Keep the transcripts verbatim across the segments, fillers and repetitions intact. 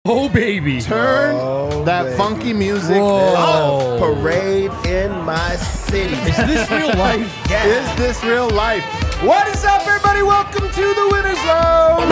Oh, baby. Turn oh, that baby. funky music Whoa. up. Parade in my city. Is this real life? Yeah. Is this real life? What is up, everybody? Welcome to the Winter Zone.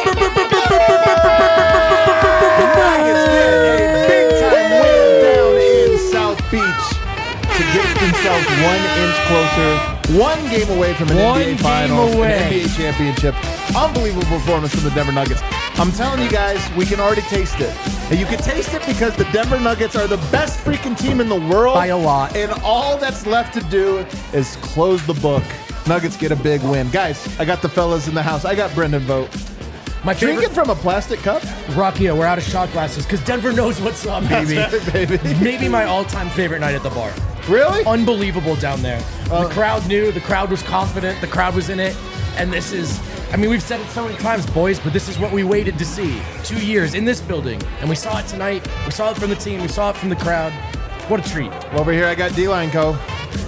Nuggets get a big-time win down in South Beach to get themselves one inch closer, one game away from an One N B A game Finals, away. an N B A championship. Unbelievable performance from the Denver Nuggets. I'm telling you guys, we can already taste it. And you can taste it because the Denver Nuggets are the best freaking team in the world. By a lot. And all that's left to do is close the book. Nuggets get a big win. Guys, I got the fellas in the house. I got Brendan vote. My favorite. Drinking from a plastic cup? Rocky, we're out of shot glasses because Denver knows what's up, baby. That's right, baby. Maybe my all-time favorite night at the bar. Really? Unbelievable down there. Uh, the crowd knew. The crowd was confident. The crowd was in it. And this is, I mean, we've said it so many times, boys, but this is what we waited to see. Two years in this building. And we saw it tonight. We saw it from the team. We saw it from the crowd. What a treat. Over here, I got D-Line Co.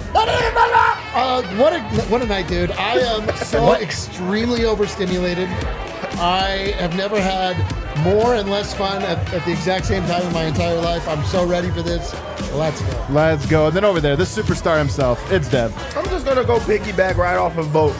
Uh, what a what a night, dude! I am so What? extremely overstimulated. I have never had more and less fun at, at the exact same time in my entire life. I'm so ready for this. Let's go. Let's go. And then over there, the superstar himself, it's Dev. I'm just gonna go piggyback right off of vote.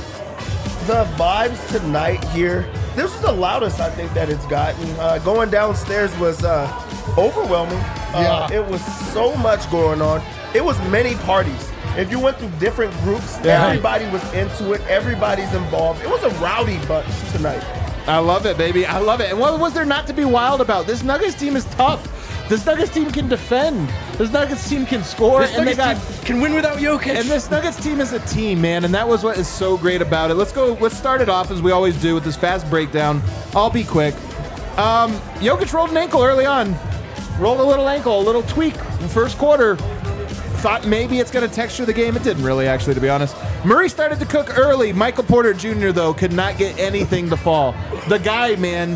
The vibes tonight here. This is the loudest I think that it's gotten. Uh, going downstairs was uh, overwhelming. Uh, Yeah. It was so much going on. It was many parties. If you went through different groups, Yeah. everybody was into it. Everybody's involved. It was a rowdy bunch tonight. I love it, baby. I love it. And what was there not to be wild about? This Nuggets team is tough. This Nuggets team can defend. This Nuggets team can score. This and they Nuggets got team can win without Jokic. And this Nuggets team is a team, man, and that was what is so great about it. Let's go. Let's start it off as we always do with this fast breakdown. I'll be quick. Um, Jokic rolled an ankle early on. Rolled a little ankle, a little tweak in the first quarter. Thought maybe it's going to texture the game. It didn't really, actually, to be honest. Murray started to cook early. Michael Porter Junior, though, could not get anything to fall. The guy, man,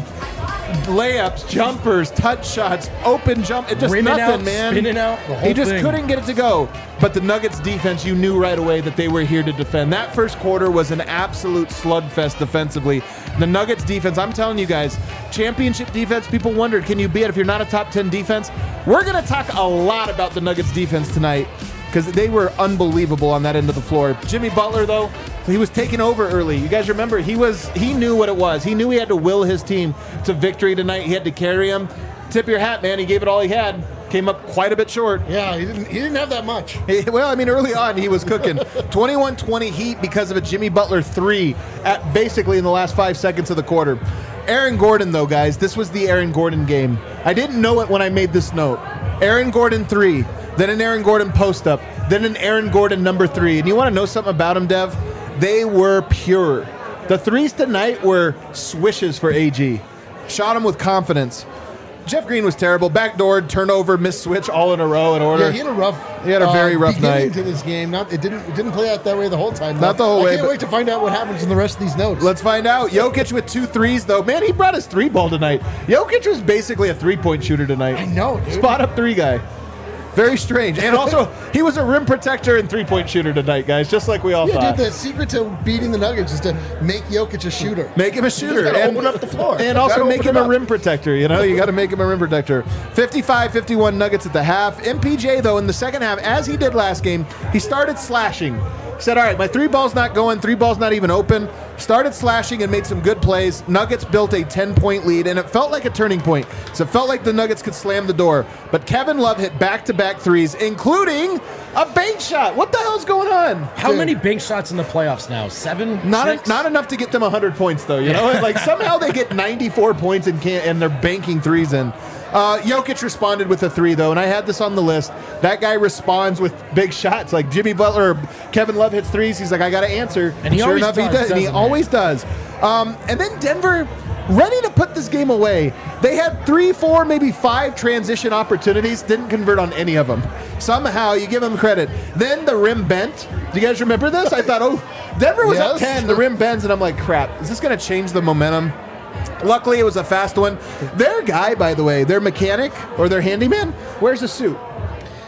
layups, jumpers, touch shots, open jump, it just Rinning nothing, out, man. spinning out, the whole he just thing. couldn't get it to go. But the Nuggets defense, you knew right away that they were here to defend. That first quarter was an absolute slugfest defensively. The Nuggets defense, I'm telling you guys, championship defense, people wondered, can you be it if you're not a top ten defense? We're going to talk a lot about the Nuggets defense tonight because they were unbelievable on that end of the floor. Jimmy Butler, though, he was taking over early. You guys remember, he was he knew what it was. He knew he had to will his team to victory tonight. He had to carry him. Tip your hat, man. He gave it all he had. Came up quite a bit short. Yeah, he didn't he didn't have that much. Hey, well, I mean, early on, he was cooking. twenty-one twenty Heat because of a Jimmy Butler three at basically in the last five seconds of the quarter. Aaron Gordon, though, guys, this was the Aaron Gordon game. I didn't know it when I made this note. Aaron Gordon three, then an Aaron Gordon post-up, then an Aaron Gordon number three. And you want to know something about him, Dev? They were pure. The threes tonight were swishes for A G. Shot him with confidence. Jeff Green was terrible. Backdoored, turnover, missed switch all in a row in order. Yeah, he had a rough. He had a very rough beginning night. to this game. Not it didn't it didn't play out that way the whole time. Not though. the whole I way, can't but- wait to find out what happens in the rest of these notes. Let's find out. Jokic with two threes, though. Man, he brought his three ball tonight. Jokic was basically a three-point shooter tonight. I know, dude. Spot up three guy. Very strange. And also, he was a rim protector and three-point shooter tonight, guys, just like we all Yeah, thought. dude. The secret to beating the Nuggets is to make Jokic a shooter. Make him a shooter. gotta and open up the floor. And You also gotta make open him it a up. rim protector. You know, you got to make him a rim protector. fifty-five fifty-one Nuggets at the half. M P J, though, in the second half, as he did last game, he started slashing. He said, all right, my three ball's not going, three ball's not even open. Started slashing and made some good plays. Nuggets built a ten-point lead, and it felt like a turning point. So it felt like the Nuggets could slam the door. But Kevin Love hit back-to-back threes, including a bank shot. What the hell's going on? How Dude. many bank shots in the playoffs now? Seven? Not Six? not enough to get them one hundred points, though. You know, like somehow they get ninety-four points and can't, and they're banking threes in. Uh, Jokic responded with a three, though, and I had this on the list. That guy responds with big shots. Like Jimmy Butler or Kevin Love hits threes. He's like, I got to answer. And he sure always enough, does, he does. And he doesn't he? always does. Um, and then Denver, ready to put this game away. They had three, four, maybe five transition opportunities. Didn't convert on any of them. Somehow, you give them credit. Then the rim bent. Do you guys remember this? I thought, oh, Denver was up Yes. ten. The rim bends, and I'm like, crap. Is this going to change the momentum? Luckily, it was a fast one. Their guy, by the way, their mechanic or their handyman, wears a suit.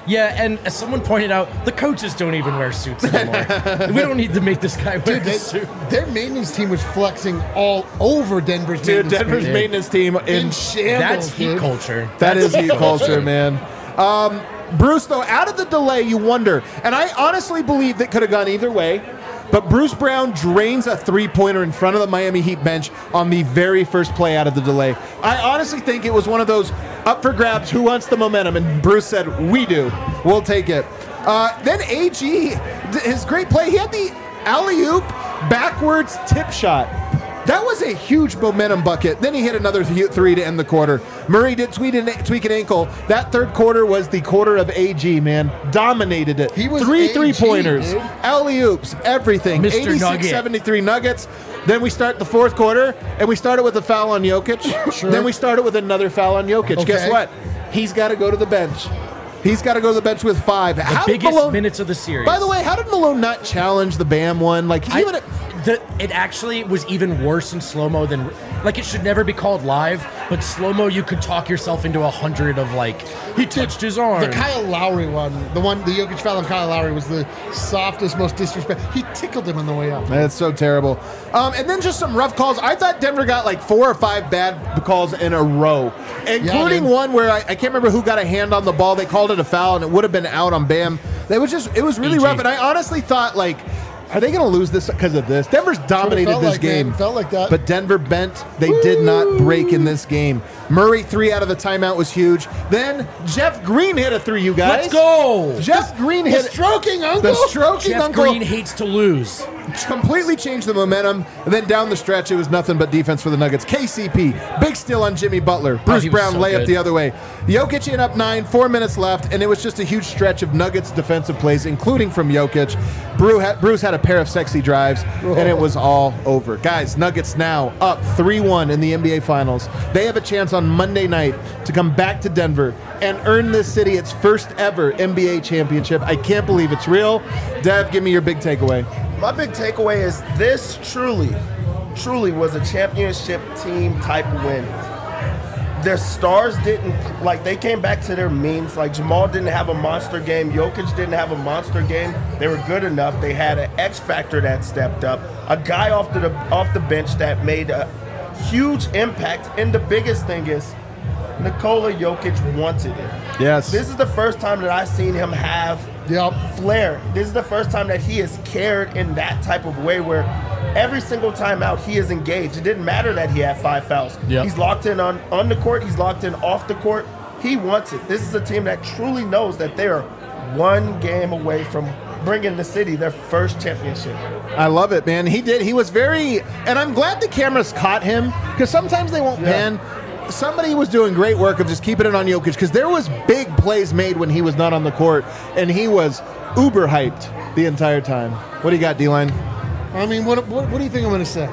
Yeah, and as someone pointed out, the coaches don't even wear suits anymore. We don't need to make this guy wear Dude, a they, suit. their maintenance team was flexing all over Denver's Dude, maintenance Denver's team. maintenance team in, in shambles. That's heat dude. culture. that is That's heat culture, man. Um, Bruce, though, out of the delay, you wonder, and I honestly believe that could have gone either way. But Bruce Brown drains a three-pointer in front of the Miami Heat bench on the very first play out of the delay. I honestly think it was one of those up for grabs, who wants the momentum? And Bruce said, we do. We'll take it. Uh, then A G, his great play, he had the alley-oop backwards tip shot. That was a huge momentum bucket. Then he hit another th- three to end the quarter. Murray did tweak an, tweak an ankle. That third quarter was the quarter of A G, man. Dominated it. He was Three A G, three-pointers, dude. alley-oops, everything. Mister eighty-six Nugget. seventy-three Nuggets. Then we start the fourth quarter, and we started with a foul on Jokic. Sure. Then we started with another foul on Jokic. Okay. Guess what? He's got to go to the bench. He's got to go to the bench with five. The How did biggest Malone, minutes of the series. By the way, how did Malone not challenge the Bam one? Like, I, even a, the, it actually was even worse in slow-mo than, like, it should never be called live, but slow-mo, you could talk yourself into a hundred of, like, he touched his arm. The Kyle Lowry one, the one, the Jokic foul on Kyle Lowry was the softest, most disrespect. He tickled him on the way up. That's so terrible. Um, and then just some rough calls. I thought Denver got like four or five bad calls in a row, including dude. one where I, I can't remember who got a hand on the ball. They called it a foul, and it would have been out on Bam. It was just, it was really A G. rough. And I honestly thought, like, are they going to lose this because of this? Denver's dominated felt this like, game. man. It felt like that. But Denver bent. They did not break in this game. Murray three out of the timeout was huge. Then Jeff Green hit a three, you guys. Let's go! Jeff Green The hit stroking uncle. the stroking Jeff uncle. Green hates to lose. Completely changed the momentum, and then down the stretch, it was nothing but defense for the Nuggets. K C P, big steal on Jimmy Butler. Bruce he was Brown so layup good. the other way. Jokic in up nine, four minutes left, and it was just a huge stretch of Nuggets defensive plays, including from Jokic. Bruce had, Bruce had a pair of sexy drives, and it was all over. Guys, Nuggets now up three one in the N B A Finals. They have a chance on Monday night to come back to Denver and earn this city its first ever N B A championship. I can't believe it's real. Dev, give me your big takeaway. My big takeaway is this truly, truly was a championship team type win. Their stars didn't, like, they came back to their means. Like, Jamal didn't have a monster game. Jokic didn't have a monster game. They were good enough. They had an X factor that stepped up. A guy off the, off the bench that made a huge impact. And the biggest thing is, Nikola Jokic wanted it. Yes. This is the first time that I've seen him have Yep. flair. This is the first time that he has cared in that type of way where every single time out he is engaged. It didn't matter that he had five fouls. Yep. He's locked in on, on the court. He's locked in off the court. He wants it. This is a team that truly knows that they are one game away from bringing the city their first championship. I love it, man. He did. He was very, and I'm glad the cameras caught him because sometimes they won't Yeah. pan. Somebody was doing great work of just keeping it on Jokic because there was big plays made when he was not on the court, and he was uber hyped the entire time. What do you got, D-Line? I mean, what, what, what do you think I'm going to say?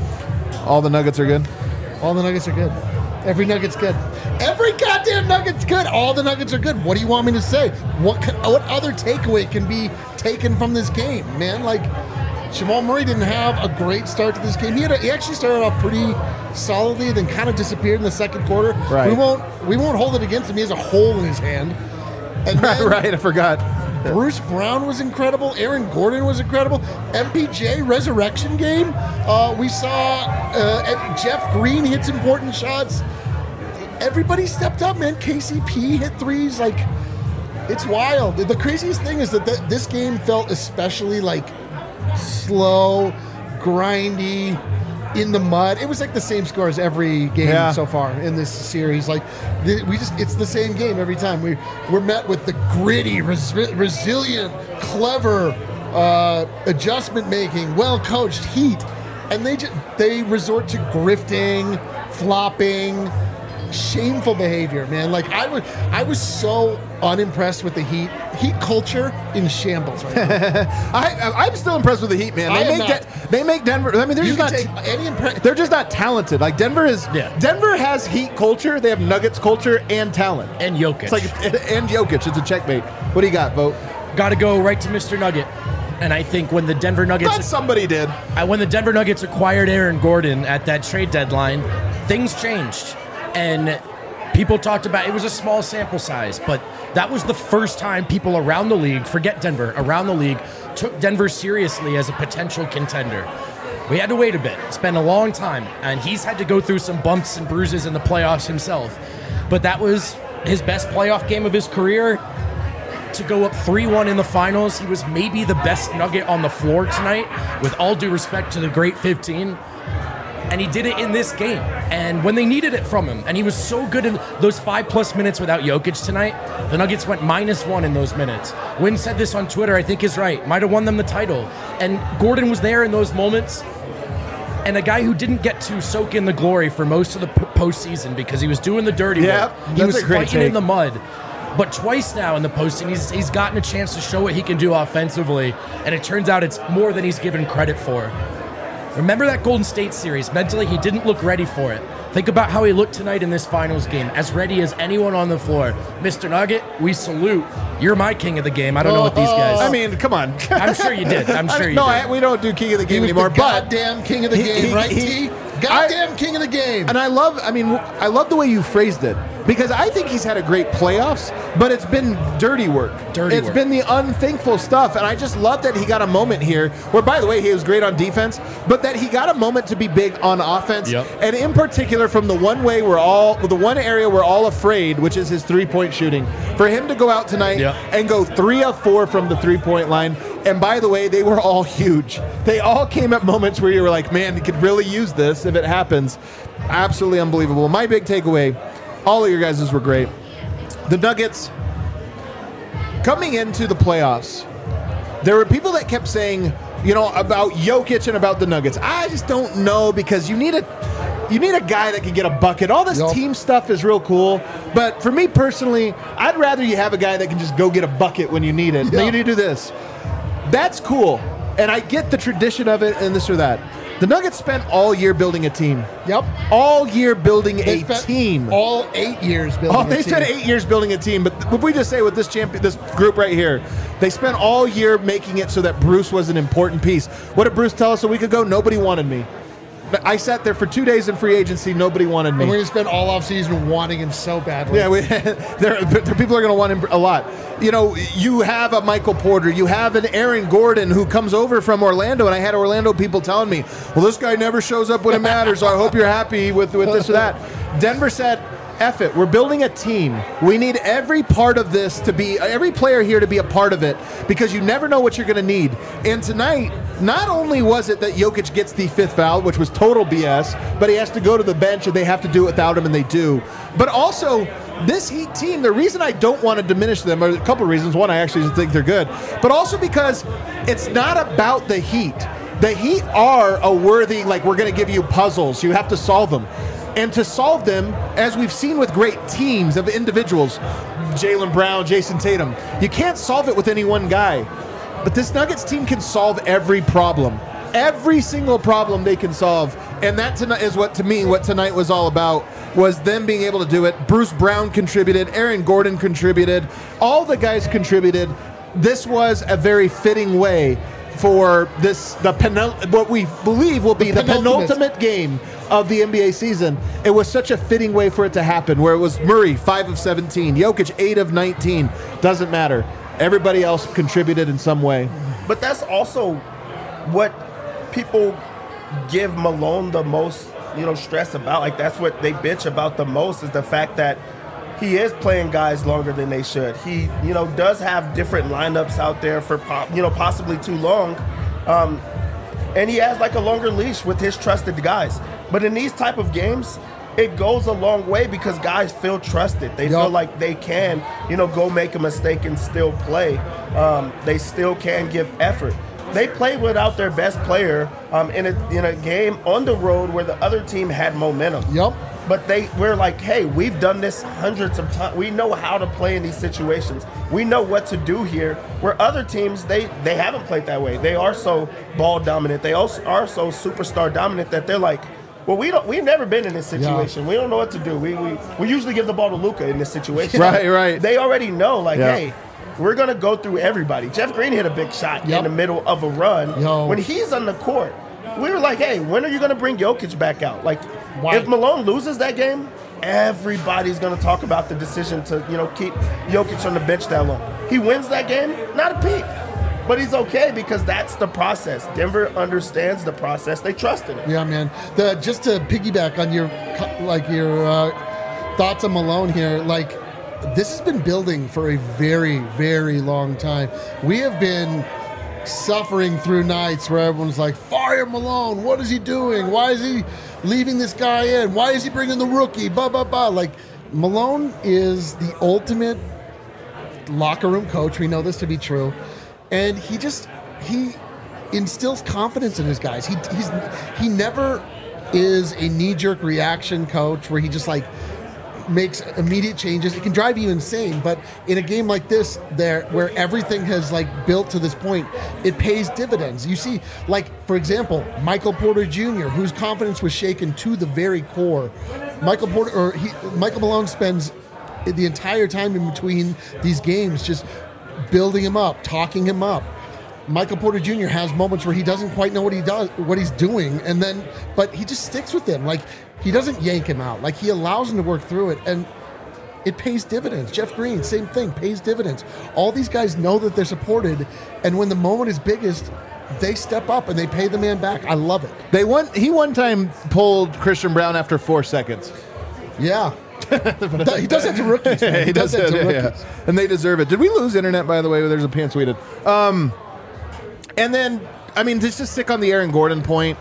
All the Nuggets are good? All the Nuggets are good. Every Nugget's good. Every goddamn Nugget's good. All the Nuggets are good. What do you want me to say? What can, what other takeaway can be taken from this game, man? Like, Jamal Murray didn't have a great start to this game. He had a, he actually started off pretty solidly, then kind of disappeared in the second quarter. Right. We won't we won't hold it against him. He has a hole in his hand. And Right, then right. I forgot. Bruce Brown was incredible. Aaron Gordon was incredible. M P J resurrection game. Uh, we saw uh, Jeff Green hits important shots. Everybody stepped up, man. K C P hit threes. Like, it's wild. The craziest thing is that th- this game felt especially like slow, grindy, in the mud. It was like the same score as every game Yeah. so far in this series. Like, the, we just, it's the same game every time. We, we're met with the gritty, res- resilient, clever, uh, adjustment making, well coached Heat. And they just, they resort to grifting, flopping, shameful behavior, man. Like, I was, I was so unimpressed with the Heat. Heat culture in shambles right now. I, I'm still impressed with the Heat, man. I They am make not. De- they make Denver. I mean, they're You just can not. take any impre- They're just not talented. Like Denver is. Yeah. Denver has Heat culture. They have Nuggets culture and talent. And Jokic. It's like and Jokic. It's a checkmate. What do you got, Vote? Got to go right to Mister Nugget. And I think when the Denver Thought Nuggets somebody did. Uh, when the Denver Nuggets acquired Aaron Gordon at that trade deadline, things changed. And people talked about, it was a small sample size, but that was the first time people around the league, forget Denver, around the league, took Denver seriously as a potential contender. We had to wait a bit. It's been a long time, and he's had to go through some bumps and bruises in the playoffs himself. But that was his best playoff game of his career. To go up three one in the finals, he was maybe the best Nugget on the floor tonight, with all due respect to the great fifteen. And he did it in this game. And when they needed it from him, and he was so good in those five-plus minutes without Jokic tonight, the Nuggets went minus one in those minutes. Wynn said this on Twitter, I think is right. Might have won them the title. And Gordon was there in those moments. And a guy who didn't get to soak in the glory for most of the p- postseason because he was doing the dirty Yep, work. He that's was a great fighting take. in the mud. But twice now in the postseason, he's, he's gotten a chance to show what he can do offensively. And it turns out it's more than he's given credit for. Remember that Golden State series? Mentally, he didn't look ready for it. Think about how he looked tonight in this finals game, as ready as anyone on the floor. Mister Nugget, we salute. You're my king of the game. I don't know what these guys... I mean, come on. I'm sure you did. I'm sure you no, did. I, we don't do king of the He game was anymore. the But goddamn king of the He- game, he- right, he- T? Goddamn king of the game. And I love, I mean, I love the way you phrased it because I think he's had a great playoffs, but it's been dirty work. Dirty It's work. been the unthankful stuff. And I just love that he got a moment here where, by the way, he was great on defense, but that he got a moment to be big on offense. Yep. And in particular, from the one way we're all, the one area we're all afraid, which is his three point shooting. For him to go out tonight Yep. and go three of four from the three point line. And by the way, they were all huge. They all came at moments where you were like, man, he could really use this if it happens. Absolutely unbelievable. My big takeaway, all of your guys' were great. The Nuggets, coming into the playoffs, there were people that kept saying, you know, about Jokic and about the Nuggets. I just don't know because you need a you need a guy that can get a bucket. All this Yep. team stuff is real cool, but for me personally, I'd rather you have a guy that can just go get a bucket when you need it. Yeah. You need to do this. That's cool, and I get the tradition of it and this or that. The Nuggets spent all year building a team. Yep. All year building They a spent team. all eight years building Oh, a they team. spent eight years building a team, but if we just say with this champion, this group right here, they spent all year making it so that Bruce was an important piece. What did Bruce tell us a week ago? Nobody wanted me. I sat there for two days in free agency. Nobody wanted me. And we're going to spend all offseason wanting him so badly. Yeah, we, there, there, people are going to want him a lot. You know, you have a Michael Porter, you have an Aaron Gordon who comes over from Orlando, and I had Orlando people telling me, well, this guy never shows up when it matters, so I hope you're happy with, with this or that. Denver said, F it, we're building a team. We need every part of this to be, every player here to be a part of it, because you never know what you're going to need. And tonight, not only was it that Jokic gets the fifth foul, which was total B S, but he has to go to the bench and they have to do it without him, and they do. But also, this Heat team, the reason I don't want to diminish them are a couple of reasons. One, I actually think they're good, but also because it's not about the Heat. The Heat are a worthy, like, we're going to give you puzzles. You have to solve them. And to solve them, as we've seen with great teams of individuals, Jaylen Brown, Jason Tatum, you can't solve it with any one guy. But this Nuggets team can solve every problem. Every single problem they can solve. And that tonight is what, to me, what tonight was all about, was them being able to do it. Bruce Brown contributed. Aaron Gordon contributed. All the guys contributed. This was a very fitting way for this, the penul- what we believe will be the, the penultimate. penultimate game of the N B A season. It was such a fitting way for it to happen, where it was Murray, five of seventeen, Jokic, eight of nineteen. Doesn't matter. Everybody else contributed in some way. But that's also what people give Malone the most, you know, stress about. Like, that's what they bitch about the most, is the fact that he is playing guys longer than they should. He, you know, does have different lineups out there for, po- you know, possibly too long. Um, and he has like a longer leash with his trusted guys. But in these type of games, it goes a long way because guys feel trusted. They feel Yup. like they can, you know, go make a mistake and still play. Um, they still can give effort. They played without their best player um, in a in a game on the road where the other team had momentum. Yup. But they we're like, hey, we've done this hundreds of times. We know how to play in these situations. We know what to do here. Where other teams, they they haven't played that way. They are so ball dominant. They also are so superstar dominant that they're like, well, we don't. We've never been in this situation. We don't know what to do. We we, we usually give the ball to Luka in this situation. Right, right. They already know, like, Yeah. hey, we're gonna go through everybody. Jeff Green hit a big shot Yep. in the middle of a run. Yo. When he's on the court, we were like, hey, when are you gonna bring Jokic back out? Like, Why? if Malone loses that game, everybody's going to talk about the decision to, you know, keep Jokic on the bench that long. He wins that game, not a peep. But he's okay because that's the process. Denver understands the process. They trust in it. Yeah, man. The just to piggyback on your like your uh, thoughts on Malone here, like this has been building for a very, very long time. We have been suffering through nights where everyone's like, fire Malone. What is he doing? Why is he leaving this guy in? Why is he bringing the rookie? Blah, blah, blah. Like Malone is the ultimate locker room coach. We know this to be true. And he just, he instills confidence in his guys. He he's he never is a knee-jerk reaction coach where he just like makes immediate changes. It can drive you insane, but in a game like this, there where everything has like built to this point, it pays dividends. You see, like for example, Michael Porter Junior, whose confidence was shaken to the very core. Michael Porter or he, Michael Malone spends the entire time in between these games just building him up, talking him up. Michael Porter Junior has moments where he doesn't quite know what he does, what he's doing, and then, but he just sticks with him. Like he doesn't yank him out. Like he allows him to work through it, and it pays dividends. Jeff Green, same thing, pays dividends. All these guys know that they're supported, and when the moment is biggest, they step up and they pay the man back. I love it. They one he one time pulled Christian Brown after four seconds. Yeah. He does that to rookies. Man. He, he does, does that to rookies. Yeah. And they deserve it. Did we lose internet, by the way? There's a pants tweeted. Um, and then, I mean, just to stick on the Aaron Gordon point,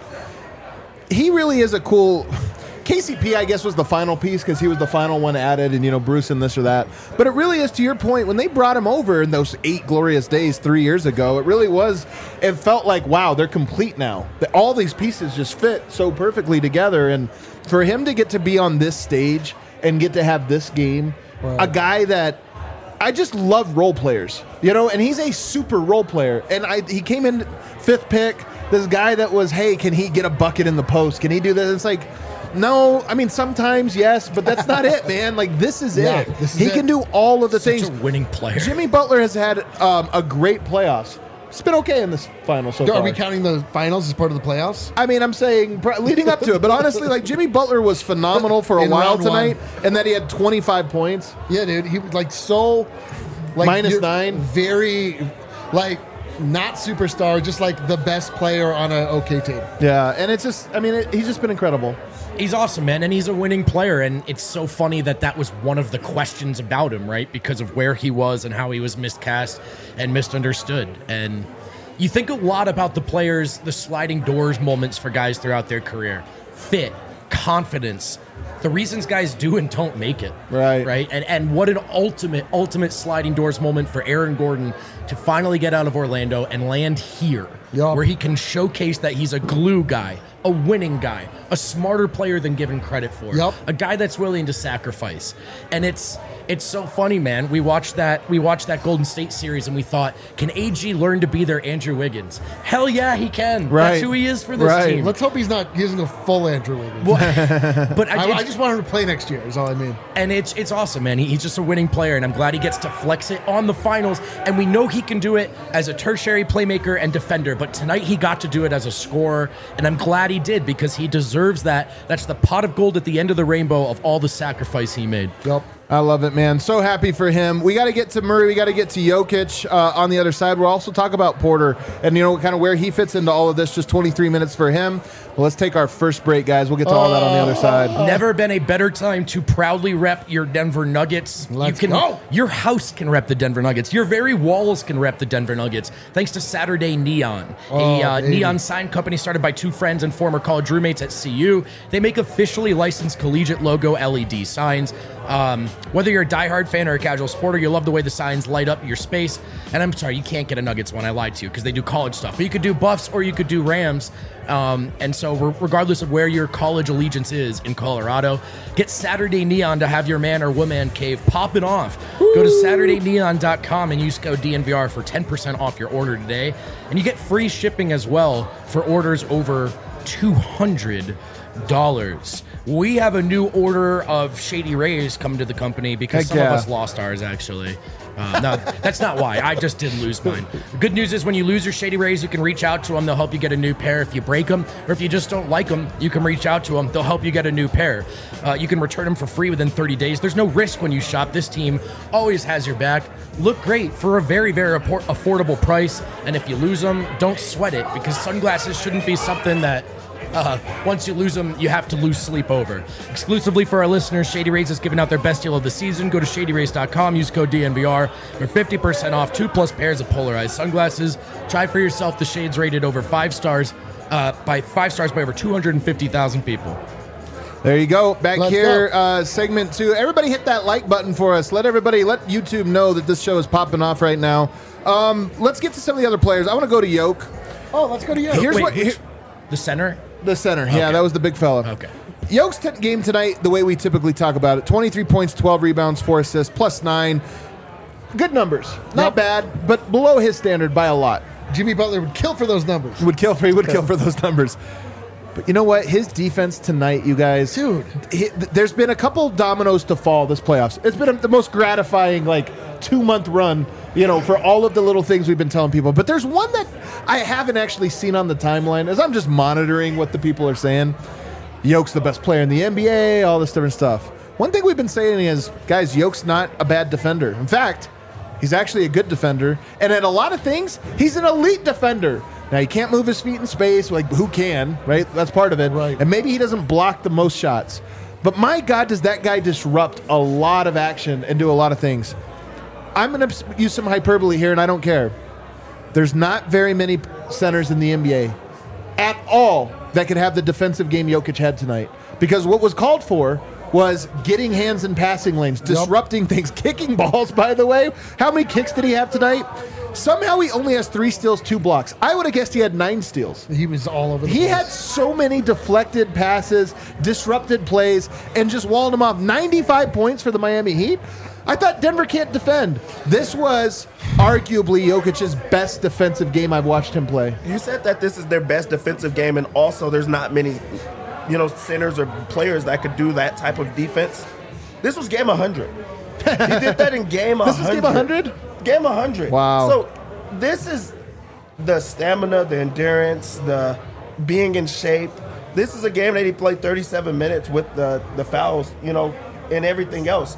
he really is a cool... K C P, I guess, was the final piece because he was the final one added, and, you know, Bruce and this or that. But it really is, to your point, when they brought him over in those eight glorious days three years ago, it really was, it felt like, wow, they're complete now. All these pieces just fit so perfectly together. And for him to get to be on this stage and get to have this game, right. A guy that I just love role players, you know, and he's a super role player. And I he came in fifth pick, this guy that was, hey, can he get a bucket in the post? Can he do this? It's like, no, I mean, sometimes, yes, but that's not it, man. Like, this is yeah, it. This is he it. can do all of the Such things. a winning player. Jimmy Butler has had um, a great playoffs. It's been okay in this final so Are far. we counting the finals as part of the playoffs? I mean, I'm saying pr- leading up to it, but honestly, like Jimmy Butler was phenomenal for a In while round tonight, one. and then he had twenty-five points. Yeah, dude. He was like so, like Minus you're nine. Very, like not superstar, just like the best player on an okay team. Yeah, and it's just, I mean, it, he's just been incredible. He's awesome, man, and he's a winning player, and it's so funny that that was one of the questions about him, right? Because of where he was and how he was miscast and misunderstood. And you think a lot about the players, the sliding doors moments for guys throughout their career. Fit, confidence, the reasons guys do and don't make it. Right. Right? And and what an ultimate, ultimate sliding doors moment for Aaron Gordon to finally get out of Orlando and land here, Yup. where he can showcase that he's a glue guy, a winning guy, a smarter player than given credit for, Yup. a guy that's willing to sacrifice. And it's it's so funny, man. We watched that we watched that Golden State series and we thought, can A G learn to be their Andrew Wiggins? Hell yeah, he can. Right. That's who he is for this Right. team. Let's hope he's not using a full Andrew Wiggins. Well, but I, I, I it's- just want him to play next year. Is all I mean. and it's it's awesome, man. He, he's just a winning player, and I'm glad he gets to flex it on the finals. And we know he can do it as a tertiary playmaker and defender, but tonight he got to do it as a scorer, and I'm glad he did because he deserves that. That's the pot of gold at the end of the rainbow of all the sacrifice he made. Yep. I love it, man. So happy for him. We got to get to Murray. We got to get to Jokic uh, on the other side. We'll also talk about Porter and, you know, kind of where he fits into all of this. Just twenty-three minutes for him. Well, let's take our first break, guys. We'll get to all that on the other side. Never been a better time to proudly rep your Denver Nuggets. Let's you can, go. Your house can rep the Denver Nuggets. Your very walls can rep the Denver Nuggets. Thanks to Saturday Neon, Oh, a uh, baby. neon sign company started by two friends and former college roommates at C U. They make officially licensed collegiate logo L E D signs. Um, whether you're a diehard fan or a casual sporter, you love the way the signs light up your space. And I'm sorry, you can't get a Nuggets one. I lied to you because they do college stuff. But you could do Buffs or you could do Rams. Um, and so re- regardless of where your college allegiance is in Colorado, get Saturday Neon to have your man or woman cave popping off. Go to Saturday Neon dot com and use code D N V R for ten percent off your order today. And you get free shipping as well for orders over two hundred dollars. We have a new order of Shady Rays coming to the company because Heck some yeah. of us lost ours, actually. Uh, no, that's not why. I just did lose mine. The good news is when you lose your Shady Rays, you can reach out to them. They'll help you get a new pair if you break them. Or if you just don't like them, you can reach out to them. They'll help you get a new pair. Uh, you can return them for free within thirty days. There's no risk when you shop. This team always has your back. Look great for a very, very affordable price. And if you lose them, don't sweat it, because sunglasses shouldn't be something that Uh, once you lose them, you have to lose sleep over. Exclusively for our listeners, Shady Rays is giving out their best deal of the season. Go to shady rays dot com, use code D N V R for fifty percent off two plus pairs of polarized sunglasses. Try for yourself the shades rated over five stars uh, by five stars by over two hundred fifty thousand people. There you go. Back Let's here, go. uh, segment two. Everybody hit that like button for us. Let everybody, let YouTube know that this show is popping off right now. Um, let's get to some of the other players. I want to go to Yoke. Oh, let's go to you. Here's Wait, what- which- here- the center? The center. Yeah, Okay. that was the big fella. Okay. Yoke's t- game tonight, the way we typically talk about it, twenty-three points, twelve rebounds, four assists, plus nine. Good numbers. Not Yep. bad, but below his standard by a lot. Jimmy Butler would kill for those numbers. Would kill for he would kill for those numbers. But you know what? His defense tonight, you guys, Dude. he- there's been a couple dominoes to fall this playoffs. It's been a, the most gratifying like two month run, you know, for all of the little things we've been telling people. But there's one that I haven't actually seen on the timeline as I'm just monitoring what the people are saying. Yoke's the best player in the N B A, all this different stuff. One thing we've been saying is, guys, Yoke's not a bad defender. In fact, he's actually a good defender. And at a lot of things, he's an elite defender. Now, he can't move his feet in space. Like, who can, right? That's part of it. Right. And maybe he doesn't block the most shots. But my God, does that guy disrupt a lot of action and do a lot of things. I'm going to use some hyperbole here, and I don't care. There's not very many centers in the N B A at all that could have the defensive game Jokic had tonight. Because what was called for was getting hands in passing lanes, disrupting things, kicking balls, by the way. How many kicks did he have tonight? Somehow he only has three steals, two blocks. I would have guessed he had nine steals. He was all over the He place. had so many deflected passes, disrupted plays, and just walled them off. ninety-five points for the Miami Heat. I thought Denver can't defend. This was arguably Jokic's best defensive game I've watched him play. You said that this is their best defensive game, and also there's not many, you know, centers or players that could do that type of defense. This was game one hundred. He did that in game one hundred. This is game one hundred? Game one hundred. Wow. So this is the stamina, the endurance, the being in shape. This is a game that he played thirty-seven minutes with the, the fouls, you know, and everything else.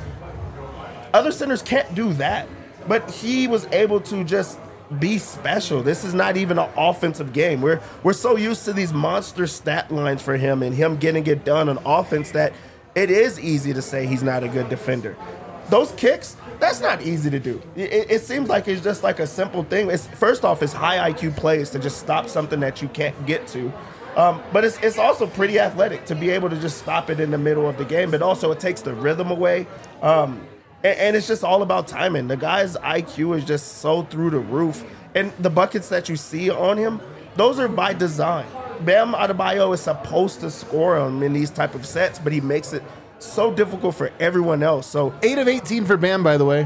Other centers can't do that, but he was able to just be special. This is not even an offensive game. We're we're so used to these monster stat lines for him and him getting it done on offense that it is easy to say he's not a good defender. Those kicks, that's not easy to do. It, it seems like it's just like a simple thing. It's, first off, it's high I Q plays to just stop something that you can't get to. Um, but it's, it's also pretty athletic to be able to just stop it in the middle of the game. But also it takes the rhythm away. Um, and, and it's just all about timing. The guy's I Q is just so through the roof. And the buckets that you see on him, those are by design. Bam Adebayo is supposed to score on him in these type of sets, but he makes it so difficult for everyone else. So eight of eighteen for Bam, by the way.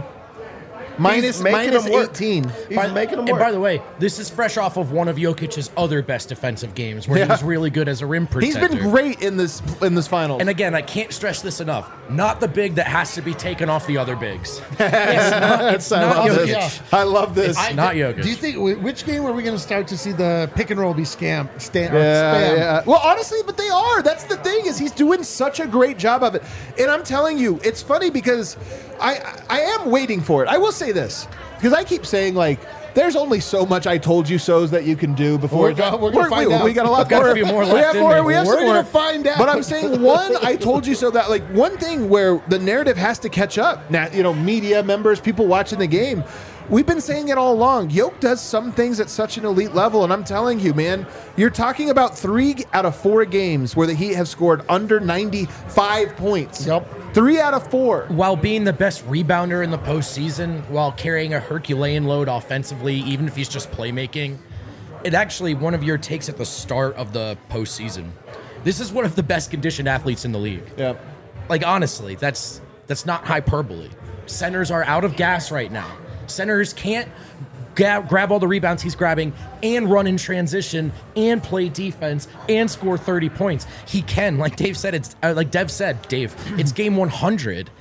Minus, making minus them work. eighteen. He's By- making them and work. by the way, this is fresh off of one of Jokic's other best defensive games where he Yeah. was really good as a rim He's protector. been great in this in this finals. And again, I can't stress this enough. Not the big that has to be taken off the other bigs. It's not, it's I not love Jokic. this. I love this. It's not Jokic. Do you think which game are we going to start to see the pick and roll be scam? Sta- or Yeah, spam? yeah. Well, honestly, but they are. That's the thing is he's doing such a great job of it. And I'm telling you, it's funny because I I am waiting for it. I will say this because I keep saying like there's only so much I told you so's that you can do before. We're go- we're gonna find we, out. we got a lot We've got a more. few more we left have in more. there. We have We're some gonna more. find out. But I'm saying one, I told you so that like one thing where the narrative has to catch up. Now, you know, media members, people watching the game. We've been saying it all along. Yoke does some things at such an elite level, and I'm telling you, man, you're talking about three out of four games where the Heat have scored under ninety-five points. Yep. Three out of four. While being the best rebounder in the postseason, while carrying a Herculean load offensively, even if he's just playmaking, it actually, one of your takes at the start of the postseason. This is one of the best conditioned athletes in the league. Yeah. Like, honestly, that's that's not hyperbole. Centers are out of gas right now. Centers can't ga- grab all the rebounds he's grabbing and run in transition and play defense and score thirty points. He can, like Dave said, it's uh, like Dev said, Dave, it's game one hundred.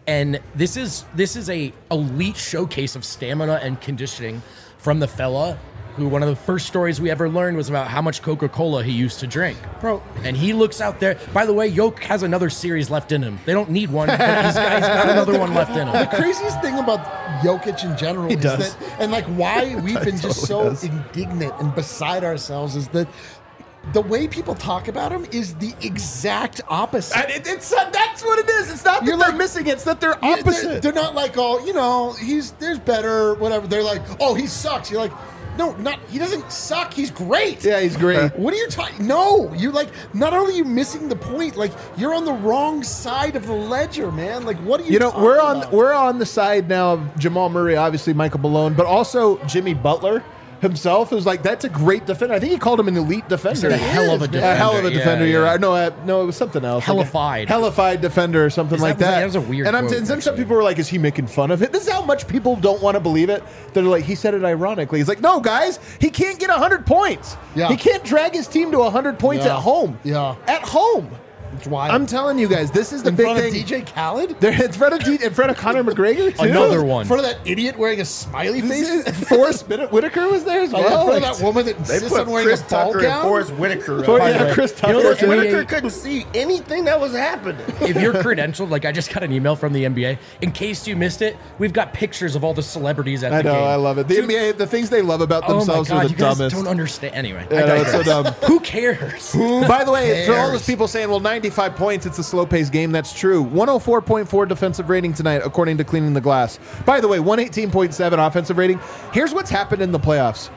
And this is this is a elite showcase of stamina and conditioning from the fella who one of the first stories we ever learned was about how much Coca-Cola he used to drink. Bro. And he looks out there. By the way, Yoke has another series left in him. They don't need one, but he's got, he's got another one left in him. The craziest thing about Jokic in general is does. that, and like why we've been just so totally does. indignant and beside ourselves is that the way people talk about him is the exact opposite. And it, it's uh, that's what it is. It's not that You're they're like- missing; it's that they're Yeah, opposite. They're, they're not like, oh, you know, he's there's better, whatever. They're like, oh, he sucks. You're like, no, not he doesn't suck. He's great. yeah, he's great. What are you talking? No, you're like, not only are you missing the point, like you're on the wrong side of the ledger, man. Like, what are you? You know, talking we're on about? we're on the side now of Jamal Murray, obviously Michael Malone, but also Jimmy Butler himself, who's like, that's a great defender. I think he called him an elite defender. He's a hell of a A defender. hell of a Yeah, defender. You're yeah. right. No, uh, no, it was something else. Hellified. Like a hellified defender or something Is like that- that. that was a weird And I'm quote, and some, some actually. people were like, is he making fun of it? This is how much people don't want to believe it. They're like, he said it ironically. He's like, no, guys, he can't get one hundred points. Yeah. He can't drag his team to one hundred points Yeah. at home. Yeah. At home. It's wild. I'm telling you guys, this is the in big front thing. of D J Khaled. There, in front of D, in front of Conor McGregor, too. Another In one. front of that idiot wearing a smiley face. This is- Forrest Whit- Whitaker was there as Oh, yeah, well. in front Like, of that woman that They insists put on wearing Chris a ball Tucker and gown. Forrest Whitaker. For- up. yeah, way, Chris you Tucker. know was the there. N B A Whitaker couldn't see anything that was happening. If you're credentialed, like I just got an email from the N B A. In case you missed it, we've got pictures of all the celebrities at I the know, game. I love it. The N B A, the things they love about Oh my themselves god, are the you guys dumbest. don't understand. Anyway, Yeah, I no, it's so digress. dumb. Who cares? By the way, for all those cares? people saying, well, ninety-five points, it's a slow-paced game, that's true. one oh four point four defensive rating tonight, according to Cleaning the Glass. By the way, one eighteen point seven offensive rating. Here's what's happened in the playoffs.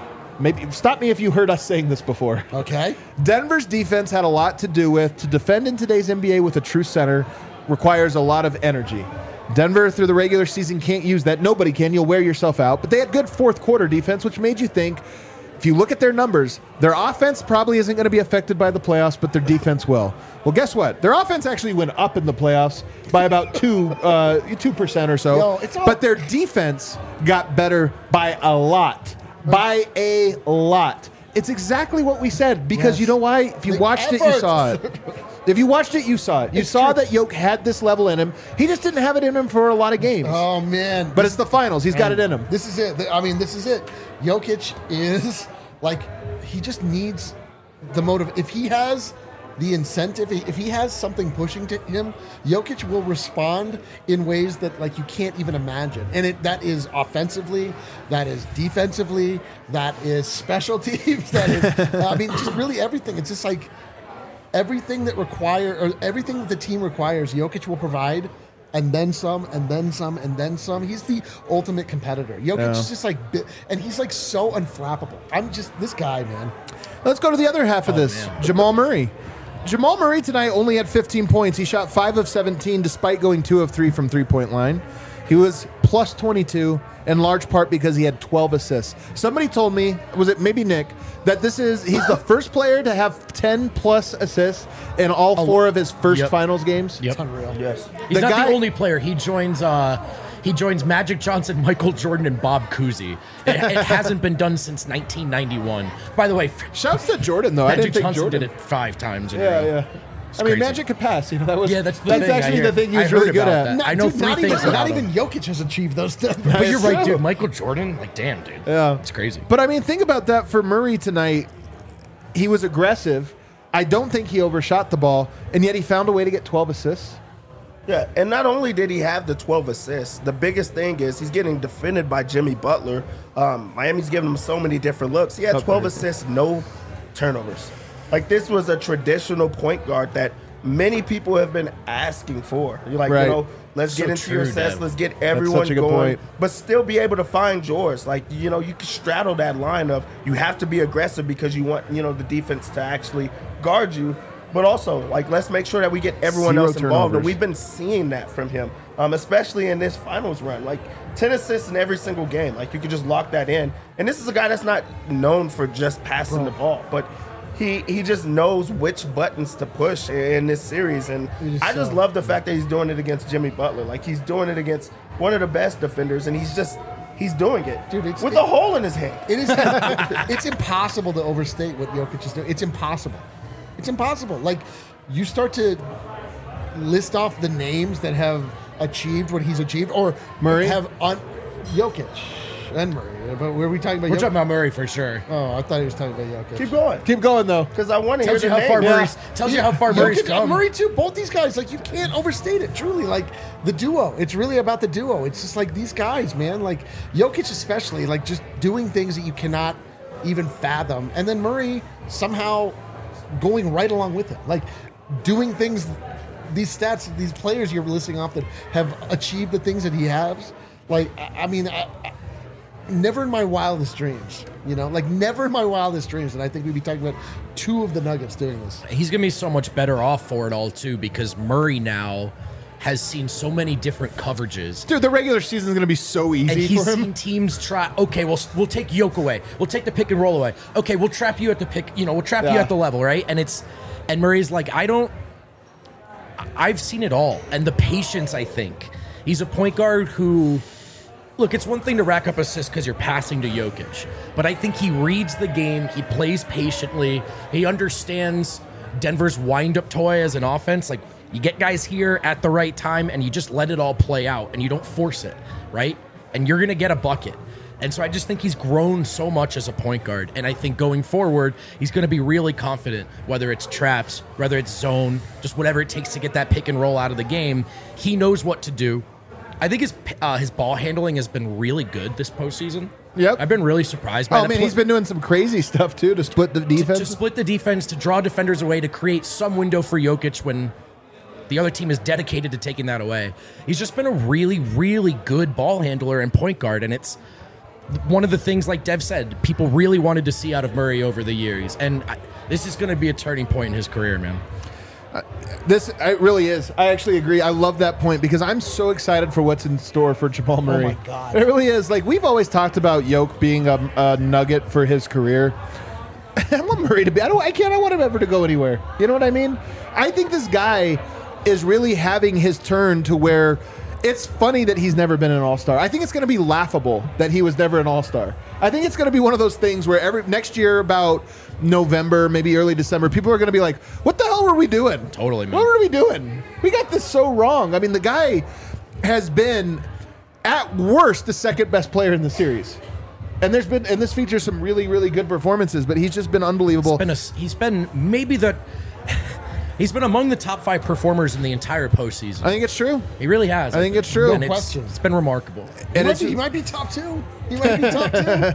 Maybe stop me if you heard us saying this before. Okay. Denver's defense had a lot to do with to defend in today's N B A with a true center requires a lot of energy. Denver through the regular season can't use that. Nobody can. You'll wear yourself out. But they had good fourth quarter defense, which made you think, if you look at their numbers, their offense probably isn't going to be affected by the playoffs, but their defense will. Well, guess what? Their offense actually went up in the playoffs by about two uh, two percent or so. Yo, it's all- but their defense got better by a lot. By a lot. It's exactly what we said because Yes. you know why? If you The watched it, you effort. saw it. If you watched it, you saw it. You It's saw true. that Yoke had this level in him. He just didn't have it in him for a lot of games. Oh man. But it's the finals. He's got it in him. This is it. I mean, this is it. Jokic is like he just needs the motive. If he has the incentive, if he has something pushing to him, Jokic will respond in ways that like you can't even imagine. And it that is offensively, that is defensively, that is special teams, that is I mean just really everything. It's just like everything that require or everything that the team requires, Jokic will provide. And then some, and then some, and then some. He's the ultimate competitor. Jokic Yeah. is just like, bi- and he's like so unflappable. I'm just this guy, man. Let's go to the other half of Oh, this. man. Jamal Murray. Jamal Murray tonight only had fifteen points. He shot five of seventeen despite going two of three from three-point line. He was plus twenty-two in large part because he had twelve assists. Somebody told me, was it maybe Nick, that this is he's the first player to have ten plus assists in all four of his first Yep. finals games. Yep. It's unreal. Yes. He's The not guy- the only player. He joins. Uh, he joins Magic Johnson, Michael Jordan, and Bob Cousy. It, it hasn't been done since nineteen ninety-one. By the way, Shouts to Jordan though. I Magic didn't think Johnson Jordan did it five times. In a Yeah, row. yeah. I mean, crazy. Magic could pass. You know, that was Yeah, that's the that's thing. I actually hear- the thing he I was heard really good about at. that. I know dude, three not things even, about not him. even Jokic has achieved those stuff. But you're right, true. dude. Michael Jordan, like, damn, dude. Yeah. It's crazy. But I mean, think about that for Murray tonight. He was aggressive. I don't think he overshot the ball, and yet he found a way to get twelve assists. Yeah, and not only did he have the twelve assists, the biggest thing is he's getting defended by Jimmy Butler. Um, Miami's giving him so many different looks. He had twelve assists, no turnovers. Like, this was a traditional point guard that many people have been asking for. You're like, Right. you know, let's So get into true, your sets, Dev. let's get everyone such a good going, point. but still be able to find yours. Like, you know, you can straddle that line of you have to be aggressive because you want, you know, the defense to actually guard you. But also, like, let's make sure that we get everyone Zero else involved. And turnovers. we've been seeing that from him, um, especially in this finals run. Like, ten assists in every single game. Like, you could just lock that in. And this is a guy that's not known for just passing the ball, but he he just knows which buttons to push in this series. And is I just so- love the fact that he's doing it against Jimmy Butler. Like, he's doing it against one of the best defenders, and he's just he's doing it Dude, it's- with it- a hole in his hand. It is. It's impossible to overstate what Jokic is doing. It's impossible. It's impossible. Like you start to list off the names that have achieved what he's achieved, or Murray? have un- Jokic and Murray. But were we talking about? We're Jokic? talking about Murray for sure. Oh, I thought he was talking about Jokic. Keep going. Keep going though. Because I want to hear Tells you the how name. far Yeah. Murray's tells you how far Murray's Jokic and come. Murray too. Both these guys, like you can't overstate it. Truly, like the duo. It's really about the duo. It's just like these guys, man. Like Jokic, especially, like just doing things that you cannot even fathom, and then Murray somehow going right along with him, like doing things. These stats, these players you're listing off that have achieved the things that he has. Like, I, I mean, I, I, never in my wildest dreams, you know, like never in my wildest dreams. And I think we'd be talking about two of the Nuggets doing this. He's going to be so much better off for it all, too, because Murray now has seen so many different coverages. Dude, the regular season is going to be so And easy he's for him. seen teams try, okay, we'll, we'll take Yoke away. We'll take the pick and roll away. Okay, we'll trap you at the pick, you know, we'll trap you Yeah. at the level, right? And it's, and Murray's like, I don't, I've seen it all. And the patience, I think. He's a point guard who, look, it's one thing to rack up assists because you're passing to Jokic, but I think he reads the game, he plays patiently, he understands Denver's wind-up toy as an offense. Like, you get guys here at the right time, and you just let it all play out, and you don't force it, right? And you're going to get a bucket. And so I just think he's grown so much as a point guard, and I think going forward, he's going to be really confident, whether it's traps, whether it's zone, just whatever it takes to get that pick and roll out of the game. He knows what to do. I think his uh, his ball handling has been really good this postseason. Yep. I've been really surprised by Oh the man, pl- he's been doing some crazy stuff too to split the to, defense. to split the defense, to draw defenders away, to create some window for Jokic when the other team is dedicated to taking that away. He's just been a really, really good ball handler and point guard, and it's one of the things, like Dev said, people really wanted to see out of Murray over the years, and I, this is going to be a turning point in his career, man. This it really is. I actually agree. I love that point because I'm so excited for what's in store for Jamal Murray. my God. It really is. Like we've always talked about Yoke being a, a nugget for his career. I want Murray to be. I don't. I can't. I want him ever to go anywhere. You know what I mean? I think this guy is really having his turn to where it's funny that he's never been an all-star. I think it's going to be laughable that he was never an all-star. I think it's going to be one of those things where every next year about November, maybe early December, people are going to be like, what the hell were we doing? Totally, man. What were we doing? We got this so wrong. I mean, the guy has been, at worst, the second best player in the series. And there's been, and this features some really, really good performances, but he's just been unbelievable. He's been, a, he's been maybe the... He's been among the top five performers in the entire postseason. I think it's true. He really has. I think it's true. And No it's, question. it's been remarkable. He, And might it's be, he might be top two. He might be top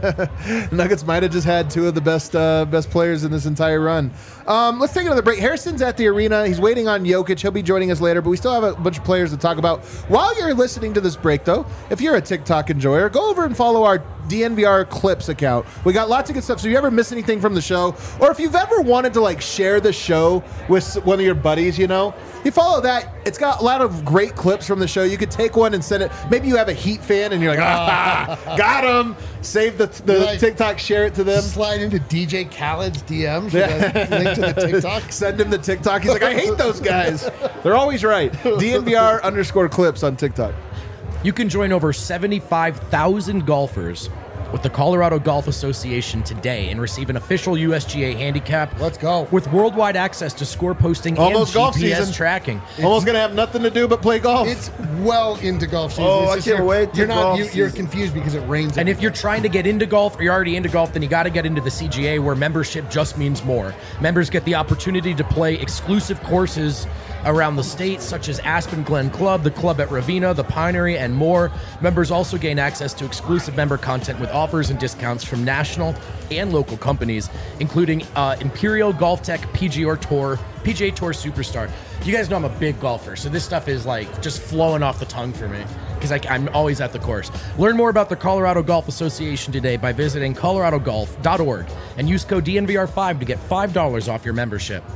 two. Nuggets might have just had two of the best uh, best players in this entire run. Um, let's take another break. Harrison's at the arena. He's waiting on Jokic. He'll be joining us later, but we still have a bunch of players to talk about. While you're listening to this break, though, if you're a TikTok enjoyer, go over and follow our D N V R Clips account. We got lots of good stuff. So if you ever miss anything from the show, or if you've ever wanted to like share the show with one of your buddies, you know, you follow that. It's got a lot of great clips from the show. You could take one and send it. Maybe you have a Heat fan and you're like, ah, got him. Save the, the Right. TikTok, share it to them. Slide into D J Khaled's D Ms for the link to the TikTok. Send him the TikTok. He's like, I hate those guys. They're always right. D N V R underscore clips on TikTok. You can join over seventy-five thousand golfers with the Colorado Golf Association today and receive an official U S G A handicap. Let's go. With worldwide access to score posting Almost and golf G P S season. tracking. Almost going to have nothing to do but play golf. It's well into golf season. Oh, It's I just can't you're- wait to You're not. golf You, you're season. confused because it rains. And every if you're day. trying to get into golf or you're already into golf, then you got to get into the C G A where membership just means more. Members get the opportunity to play exclusive courses around the state, such as Aspen Glen Club, the club at Ravina, the Pinery, and more. Members also gain access to exclusive member content with offers and discounts from national and local companies, including uh, Imperial Golf Tech, P G A Tour, P G A Tour Superstar. You guys know I'm a big golfer, so this stuff is like just flowing off the tongue for me because I'm always at the course. Learn more about the Colorado Golf Association today by visiting colorado golf dot org and use code D N V R five to get five dollars off your membership.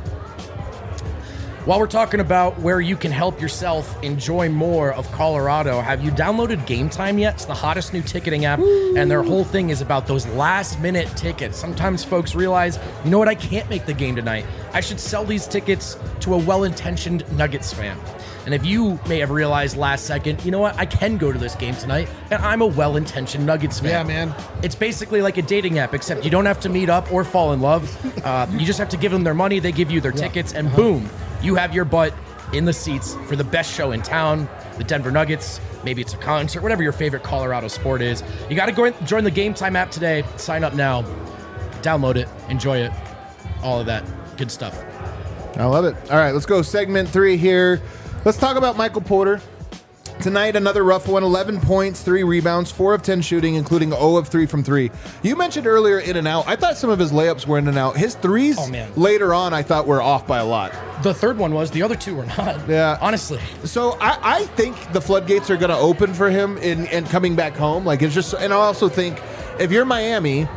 While we're talking about where you can help yourself enjoy more of Colorado, have you downloaded Game Time yet? It's the hottest new ticketing app, and their whole thing is about those last-minute tickets. Sometimes folks realize, you know what, I can't make the game tonight. I should sell these tickets to a well-intentioned Nuggets fan. And if you may have realized last second, you know what, I can go to this game tonight, and I'm a well-intentioned Nuggets fan. Yeah, man. It's basically like a dating app, except you don't have to meet up or fall in love. Uh, you just have to give them their money, they give you their tickets, and boom, you have your butt in the seats for the best show in town, the Denver Nuggets. Maybe it's a concert, whatever your favorite Colorado sport is. You got to go in, join the Game Time app today. Sign up now. Download it. Enjoy it. All of that good stuff. I love it. All right, let's go segment three here. Let's talk about Michael Porter. Tonight, another rough one. eleven points, three rebounds, four of ten shooting, including zero of three from three. You mentioned earlier in and out. I thought some of his layups were in and out. His threes Oh, man. later on, I thought were off by a lot. The third one was. The other two were not. Yeah. Honestly. So I, I think the floodgates are going to open for him in, in coming back home. Like it's just, and I also think if you're Miami,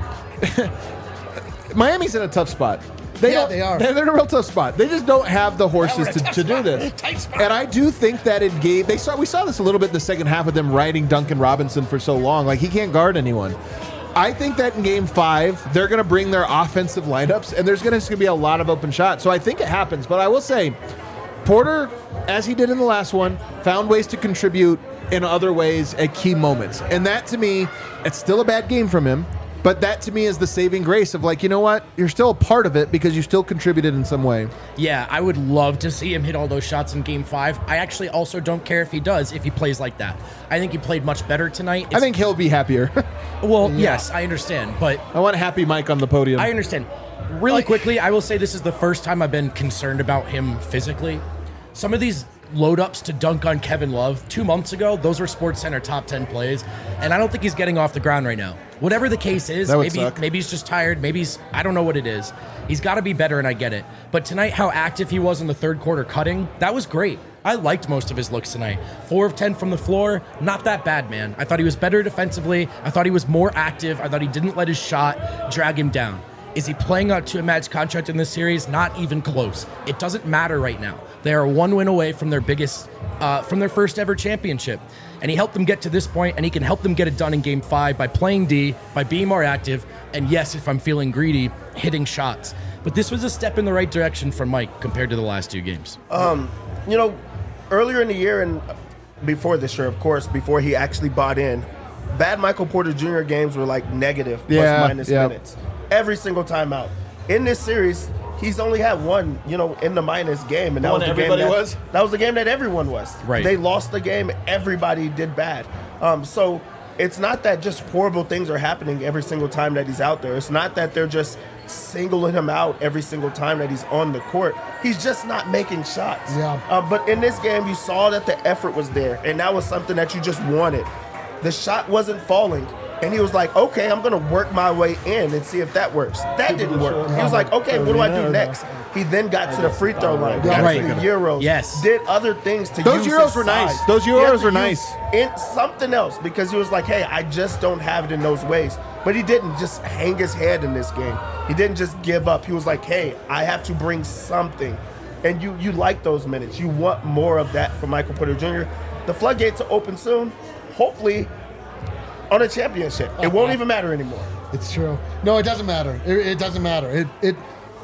Miami's in a tough spot. They Yeah, don't- they are. They're, they're in a real tough spot. They just don't have the horses to, to do this. And I do think that it gave. They saw we saw this a little bit in the second half of them riding Duncan Robinson for so long. Like he can't guard anyone. I think that in game five, they're going to bring their offensive lineups, and there's going to be a lot of open shots. So I think it happens. But I will say, Porter, as he did in the last one, found ways to contribute in other ways at key moments. And that, to me, it's still a bad game from him. But that, to me, is the saving grace of like, you know what? You're still a part of it because you still contributed in some way. Yeah, I would love to see him hit all those shots in game five. I actually also don't care if he does, if he plays like that. I think he played much better tonight. I It's- think he'll be happier. Well, yes, I understand. But I want Happy Mike on the podium. I understand. Really quickly, I will say this is the first time I've been concerned about him physically. Some of these load-ups to dunk on Kevin Love two months ago, those were SportsCenter top ten plays, and I don't think he's getting off the ground right now. Whatever the case is, That would maybe suck. maybe he's just tired, maybe he's, I don't know what it is. He's got to be better, and I get it. But tonight, how active he was in the third quarter cutting, that was great. I liked most of his looks tonight. Four of ten from the floor, not that bad, man. I thought he was better defensively. I thought he was more active. I thought he didn't let his shot drag him down. Is he playing out to a max contract in this series? Not even close. It doesn't matter right now. They are one win away from their biggest, uh, from their first ever championship. And he helped them get to this point, and he can help them get it done in game five by playing D, by being more active, and yes, if I'm feeling greedy, hitting shots. But this was a step in the right direction for Mike compared to the last two games. You know, earlier in the year and before this year, of course, before he actually bought in, bad Michael Porter Junior games were like negative Yeah, plus minus yeah. minutes every single time out. In this series, he's only had one, you know, in the minus game, and that One was the everybody game that, was? that was the game that everyone was. Right. They lost the game. Everybody did bad. Um, so it's not that just horrible things are happening every single time that he's out there. It's not that they're just singling him out every single time that he's on the court. He's just not making shots. Yeah. Uh, but in this game, you saw that the effort was there, and that was something that you just wanted. The shot wasn't falling, and he was like, okay, I'm going to work my way in and see if that works. That didn't work. He was like, okay, what do I do next? He then got to the free throw line, got Right. to the Euros, Yes. did other things to Those use Euros his were nice. size. Those He had Euros to were use nice. in something else because he was like, hey, I just don't have it in those ways. But he didn't just hang his head in this game. He didn't just give up. He was like, hey, I have to bring something. And you you like those minutes. You want more of that from Michael Porter Junior The floodgates are open soon, hopefully on a championship. It won't even matter anymore. It's true. No, it doesn't matter. It, it doesn't matter. It, it.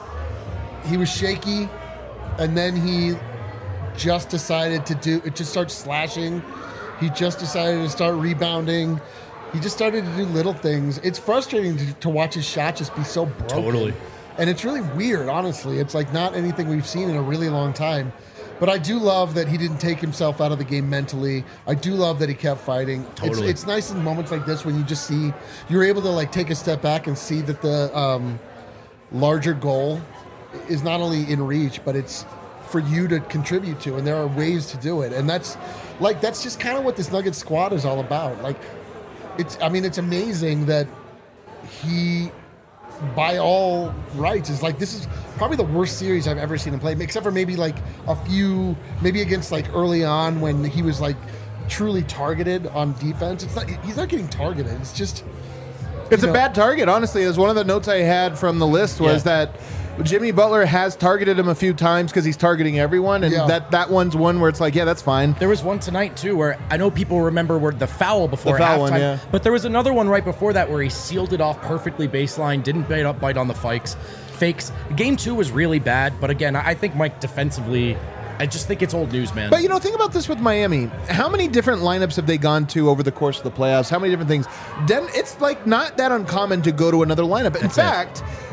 He was shaky, and then he just decided to do. It just starts slashing. He just decided to start rebounding. He just started to do little things. It's frustrating to, to watch his shot just be so broken. Totally. And it's really weird, honestly. It's like not anything we've seen in a really long time. But I do love that he didn't take himself out of the game mentally. I do love that he kept fighting. Totally. It's, it's nice in moments like this when you just see, you're able to like take a step back and see that the um, larger goal is not only in reach, but it's for you to contribute to. And there are ways to do it. And that's like, that's just kind of what this Nuggets squad is all about. Like, it's, I mean, it's amazing that he, by all rights, is like, this is probably the worst series I've ever seen him play, except for maybe like a few, maybe against like early on when he was like truly targeted on defense. It's not, he's not getting targeted. It's just, It's you a know- bad target, honestly. As one of the notes I had from the list was Yeah. that Jimmy Butler has targeted him a few times because he's targeting everyone, and Yeah. that, that one's one where it's like, yeah, that's fine. There was one tonight, too, where I know people remember where the foul before The foul halftime, one, yeah. but there was another one right before that where he sealed it off perfectly baseline, didn't bite up, bite on the fakes. fakes. Game two was really bad, but again, I think Mike defensively, I just think it's old news, man. But, you know, think about this with Miami. How many different lineups have they gone to over the course of the playoffs? How many different things? Den- it's, like, not that uncommon to go to another lineup. In That's it. fact,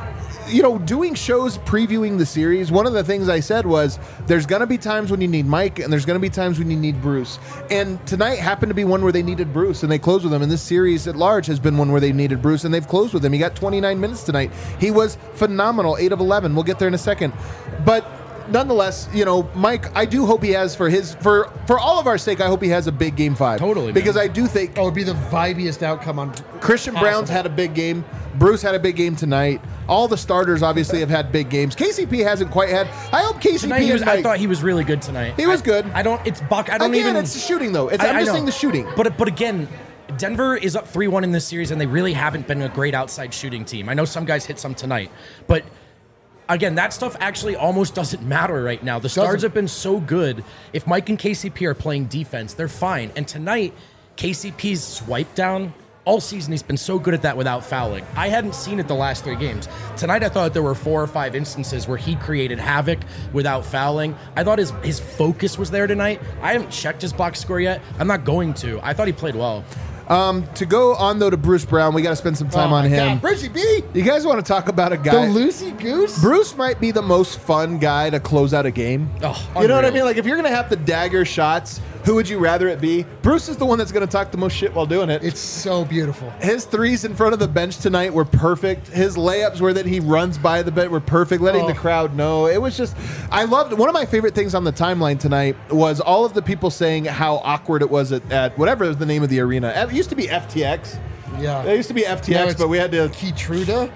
you know, doing shows previewing the series, one of the things I said was there's going to be times when you need Mike and there's going to be times when you need Bruce. And tonight happened to be one where they needed Bruce and they closed with him. And this series at large has been one where they needed Bruce and they've closed with him. He got twenty-nine minutes tonight. He was phenomenal, eight of eleven. We'll get there in a second. But nonetheless, you know, Mike, I do hope he has for his for for all of our sake. I hope he has a big game five. Totally, because man. I do think Oh, it'd be the vibiest outcome on Christian possible. Brown's had a big game. Bruce had a big game tonight. All the starters obviously have had big games. K C P hasn't quite had. I hope K C P. Tonight, he and was, I Mike- thought he was really good tonight. He was I- good. I don't. It's Buck. I don't Again, even. it's the shooting though. It's, I- I'm I just know. saying the shooting. But but again, Denver is up three one in this series, and they really haven't been a great outside shooting team. I know some guys hit some tonight, but again, that stuff actually almost doesn't matter right now. The Stars Doesn't. have been so good. If Mike and K C P are playing defense, they're fine. And tonight, K C P's swipe down. All season, he's been so good at that without fouling. I hadn't seen it the last three games. Tonight, I thought there were four or five instances where he created havoc without fouling. I thought his his focus was there tonight. I haven't checked his box score yet. I'm not going to. I thought he played well. Um, to go on though to Bruce Brown, we got to spend some time Oh on my him. God, Brucey B, You guys want to talk about a the guy? Lucy Goose. Bruce might be the most fun guy to close out a game. Oh, you know what I unreal. mean? Like if you're gonna have the dagger shots, who would you rather it be? Bruce is the one that's gonna talk the most shit while doing it. It's so beautiful. His threes in front of the bench tonight were perfect. His layups where that he runs by the bench were perfect, letting Oh. the crowd know. It was just, I loved, one of my favorite things on the timeline tonight was all of the people saying how awkward it was at, at whatever the name of the arena. It used to be F T X. Yeah. It used to be F T Now X, it's but we had to Keytruda.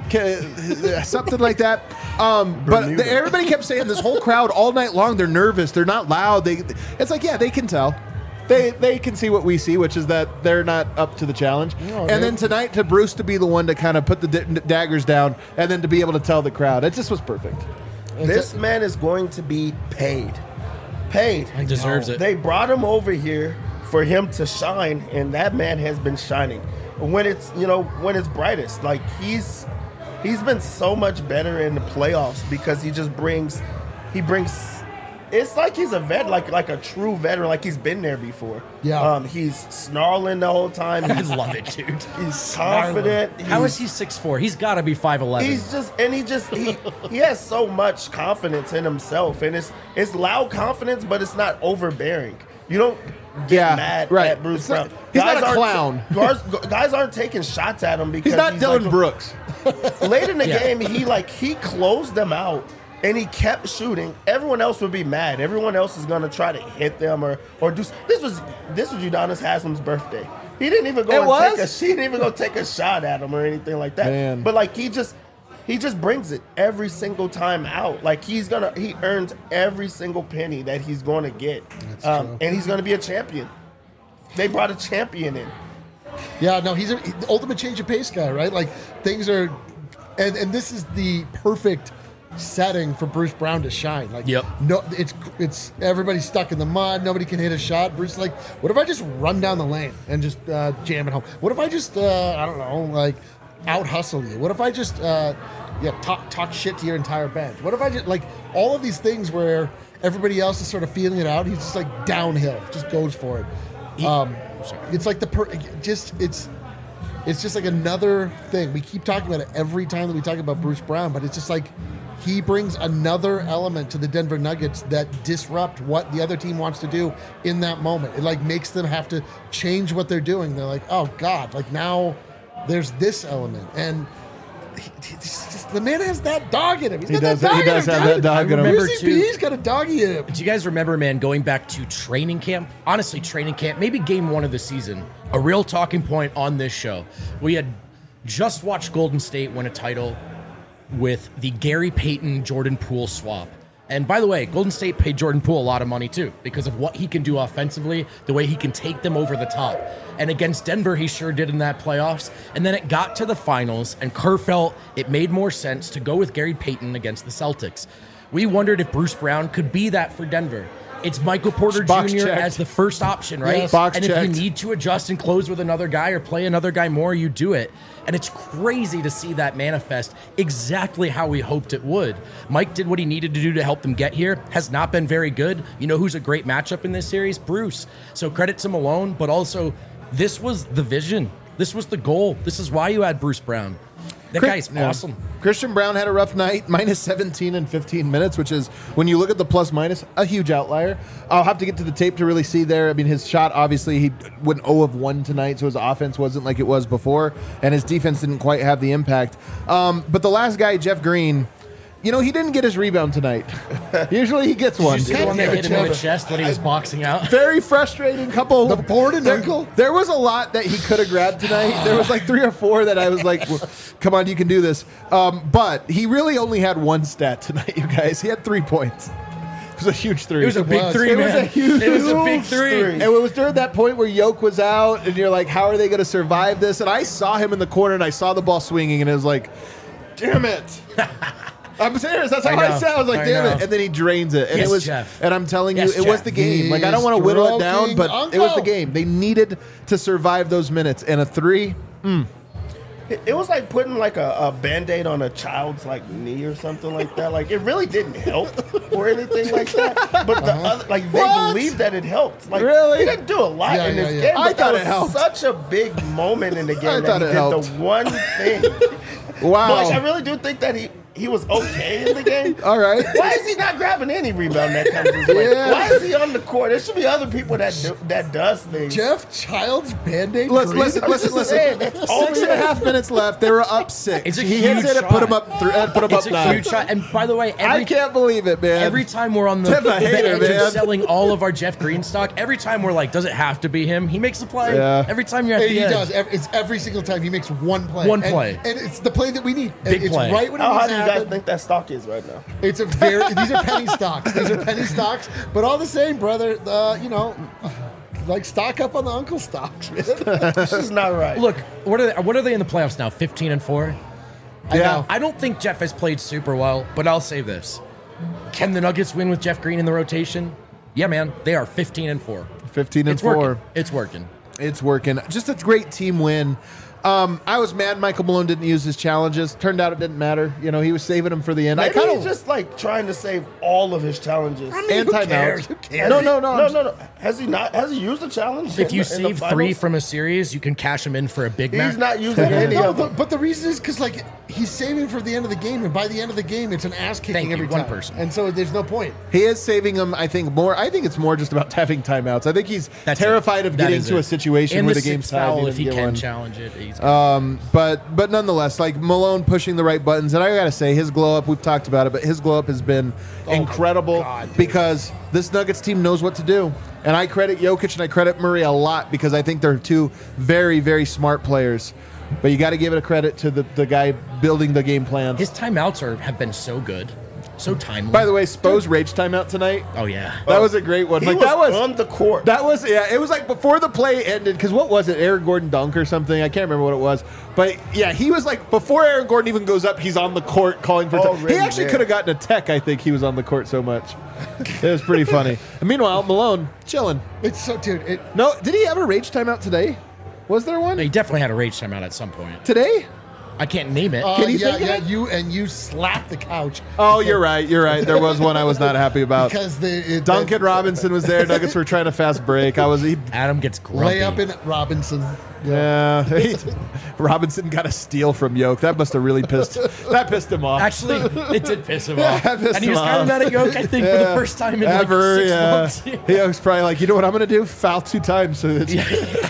K- something like that. Um, but the, everybody kept saying this whole crowd all night long. They're nervous. They're not loud. They. It's like yeah, they can tell. They they can see what we see, which is that they're not up to the challenge. No, and they- then tonight, to Bruce to be the one to kind of put the d- daggers down, and then to be able to tell the crowd, it just was perfect. This man is going to be paid. Paid. He deserves it. They brought him over here for him to shine, and that man has been shining. When it's you know when it's brightest, like he's he's been so much better in the playoffs because he just brings he brings. It's like he's a vet, like like a true veteran, like he's been there before. Yeah. Um, he's snarling the whole time. I He's, love it, dude. he's confident. How He's- is he six foot four? He's got to be five eleven. He's just and he just he he has so much confidence in himself, and it's it's loud confidence, but it's not overbearing. You don't get Yeah, mad right. at Bruce It's not- Brown. he's not a aren't- clown. Guys, guys aren't taking shots at him because He's not Dylan like, Brooks. Late in the Yeah. game, he like he closed them out. And he kept shooting. Everyone else would be mad. Everyone else is gonna try to hit them or or do. This was this was Udonis Haslam's birthday. He didn't even go It and was? take a. She didn't even go take a shot at him or anything like that. Man. But like he just he just brings it every single time out. Like he's gonna he earns every single penny that he's gonna get, um, true. and he's gonna be a champion. They brought a champion in. Yeah, no, he's a he- the ultimate change of pace guy, right? Like things are, and and this is the perfect setting for Bruce Brown to shine. Like, Yep. no, it's it's everybody's stuck in the mud. Nobody can hit a shot. Bruce is like, what if I just run down the lane and just uh, jam it home? What if I just uh, I don't know, like out hustle you? What if I just uh, yeah talk talk shit to your entire bench? What if I just like all of these things where everybody else is sort of feeling it out? He's just like downhill, just goes for it. Um, it's like the per- just it's it's just like another thing. We keep talking about it every time that we talk about Bruce Brown, but it's just like he brings another element to the Denver Nuggets that disrupt what the other team wants to do in that moment. It like makes them have to change what they're doing. They're like, oh God, like now there's this element. And he, he's just, the man has that dog in him. He's He got does- that dog he does in him, have dude. that dog in him. remember Brucey too- B's got a doggy in him. Do you guys remember, man, going back to training camp? Honestly, training camp, maybe game one of the season, a real talking point on this show. We had just watched Golden State win a title with the Gary Payton Jordan Poole swap. And by the way, Golden State paid Jordan Poole a lot of money too because of what he can do offensively, the way he can take them over the top. And against Denver, he sure did in that playoffs. And then it got to the finals, and Kerr felt it made more sense to go with Gary Payton against the Celtics. We wondered if Bruce Brown could be that for Denver. It's Michael Porter Box Junior checked. as the first option, right? Yes. Box and if checked. you need to adjust and close with another guy or play another guy more, you do it. And it's crazy to see that manifest exactly how we hoped it would. Mike did what he needed to do to help them get here. Has not been very good. You know who's a great matchup in this series? Bruce. So credit to Malone, but also this was the vision. This was the goal. This is why you had Bruce Brown. That Chris- guy's yeah. awesome. Christian Brown had a rough night, minus seventeen in fifteen minutes, which is, when you look at the plus minus, a huge outlier. I'll have to get to the tape to really see there. I mean, his shot, obviously, he went zero of one tonight, so his offense wasn't like it was before, and his defense didn't quite have the impact. Um, but the last guy, Jeff Green, you know, he didn't get his rebound tonight. Usually he gets one. You see the one that Yeah, hit him in the Jeff. chest when he was boxing out? Very frustrating couple. The board and there, ankle? There was a lot that he could have grabbed tonight. There was like three or four that I was like, well, come on, you can do this. Um, but he really only had one stat tonight, you guys. He had three points. It was a huge three. It was a big was. three, It man. was a huge it was a big three. three. And it was during that point where Yoke was out, and you're like, how are they going to survive this? And I saw him in the corner, and I saw the ball swinging, and it was like, damn it. I'm serious. That's how I I, know. said. I was like, I damn know. it. And then he drains it. And Yes, it was, Jeff. and I'm telling Yes, you, it was Jeff. the game. Like, I don't He's want to whittle it down, stroking but it was the uncle. game. They needed to survive those minutes. And a three, It, it was like putting like a, a band-aid on a child's like knee or something like that. Like it really didn't help or anything like that. But the other, like they What? believed that it helped. Like Really? he didn't do a lot Yeah, in yeah, this yeah. game. I But thought that it helped. was such a big moment in the game I that thought he it did helped. the one thing. wow. But like, I really do think that he he was okay in the game. All right. Why is he not grabbing any rebound that comes his way? Yeah. Why is he on the court? There should be other people that do, that does things. Jeff Child's Band-Aid. Listen, green? listen, I'm listen, just listen. saying, that's all Six it and a is. half minutes left. They were up six. It's a he huge hits it and put shot. him up, th- and put him It's up a nine. huge shot. And by the way, I every can't believe it, man. Every time we're on the, Jeff a the hater, edge man. of selling all of our Jeff Green stock, every time we're like, does it have to be him? He makes the play. Yeah. Every time you're at Hey, the he edge. does. Every, it's every single time he makes one play. One And- play. and, it's the play that we need. Big it's play. right when it How needs high to do you guys happen. think that stock is right now? It's a very. These are penny stocks. These are penny stocks. But all the same, brother. Uh, you know, like stock up on the uncle stocks, man. This is not right. Look, what are they, what are they in the playoffs now? fifteen and four. Yeah. I don't think Jeff has played super well, but I'll say this: can the Nuggets win with Jeff Green in the rotation? Yeah, man, they are fifteen and four. fifteen and It's four. working. It's working. It's working. Just a great team win. Um, I was mad Michael Malone didn't use his challenges. Turned out it didn't matter. You know, he was saving them for the end. I Maybe kind he's of just like trying to save all of his challenges. and Who timeouts. cares? Who cares? Has No, he- no, no. no, I'm no, no. Has he not? Has he used the challenge? If in you the- in the save three finals? from a series, you can cash them in for a big match. he's not using any No, of them. but, but the reason is because like he's saving for the end of the game, and by the end of the game, it's an ass kicking Thank you, every one time. person. And so there's no point. He is saving them, I think, more. I think it's more just about having timeouts. I think he's That's terrified it. of That getting is to it. a situation and where the, the, game's sixth tied. foul, and if he get can one. challenge it. He's Um, but but nonetheless, like Malone pushing the right buttons, and I gotta say his glow up. We've talked about it, but his glow up has been incredible God, dude. because this Nuggets team knows what to do. And I credit Jokic and I credit Murray a lot because I think they're two very very smart players. But you got to give it a credit to the, the guy building the game plans. his timeouts are have been so good, so timely. By the way, Spo's rage timeout tonight. oh yeah. That was a great one. He like was, that was on the court. That was yeah. It was like before the play ended because what was it? Aaron Gordon dunk or something? I can't remember what it was. But yeah, he was like before Aaron Gordon even goes up, he's on the court calling for. Already he actually there. could have gotten a tech. I think he was on the court so much. It was pretty funny. And meanwhile, Malone chilling. It's so, dude. It, No, did he have a rage timeout today? Was there one He definitely had a rage timeout at some point. today? I can't name it. uh, Can you yeah, think of yeah. it? You and you slapped the couch. Oh, you're right. You're right. There was one I was not happy about. Because the it, Duncan the, Robinson was there. Nuggets were trying to fast break. I was. He, Adam gets grumpy. layup in Robinson. Yeah, he- Robinson got a steal from Yoke. That must have really pissed. That pissed him off. Actually, it did piss him Yeah, off. that pissed And he was him kind of off. mad at Yoke, I think, for the first time in Ever, like six yeah. months. Yoke's probably like, you know what I'm going to do? Foul two times. So it's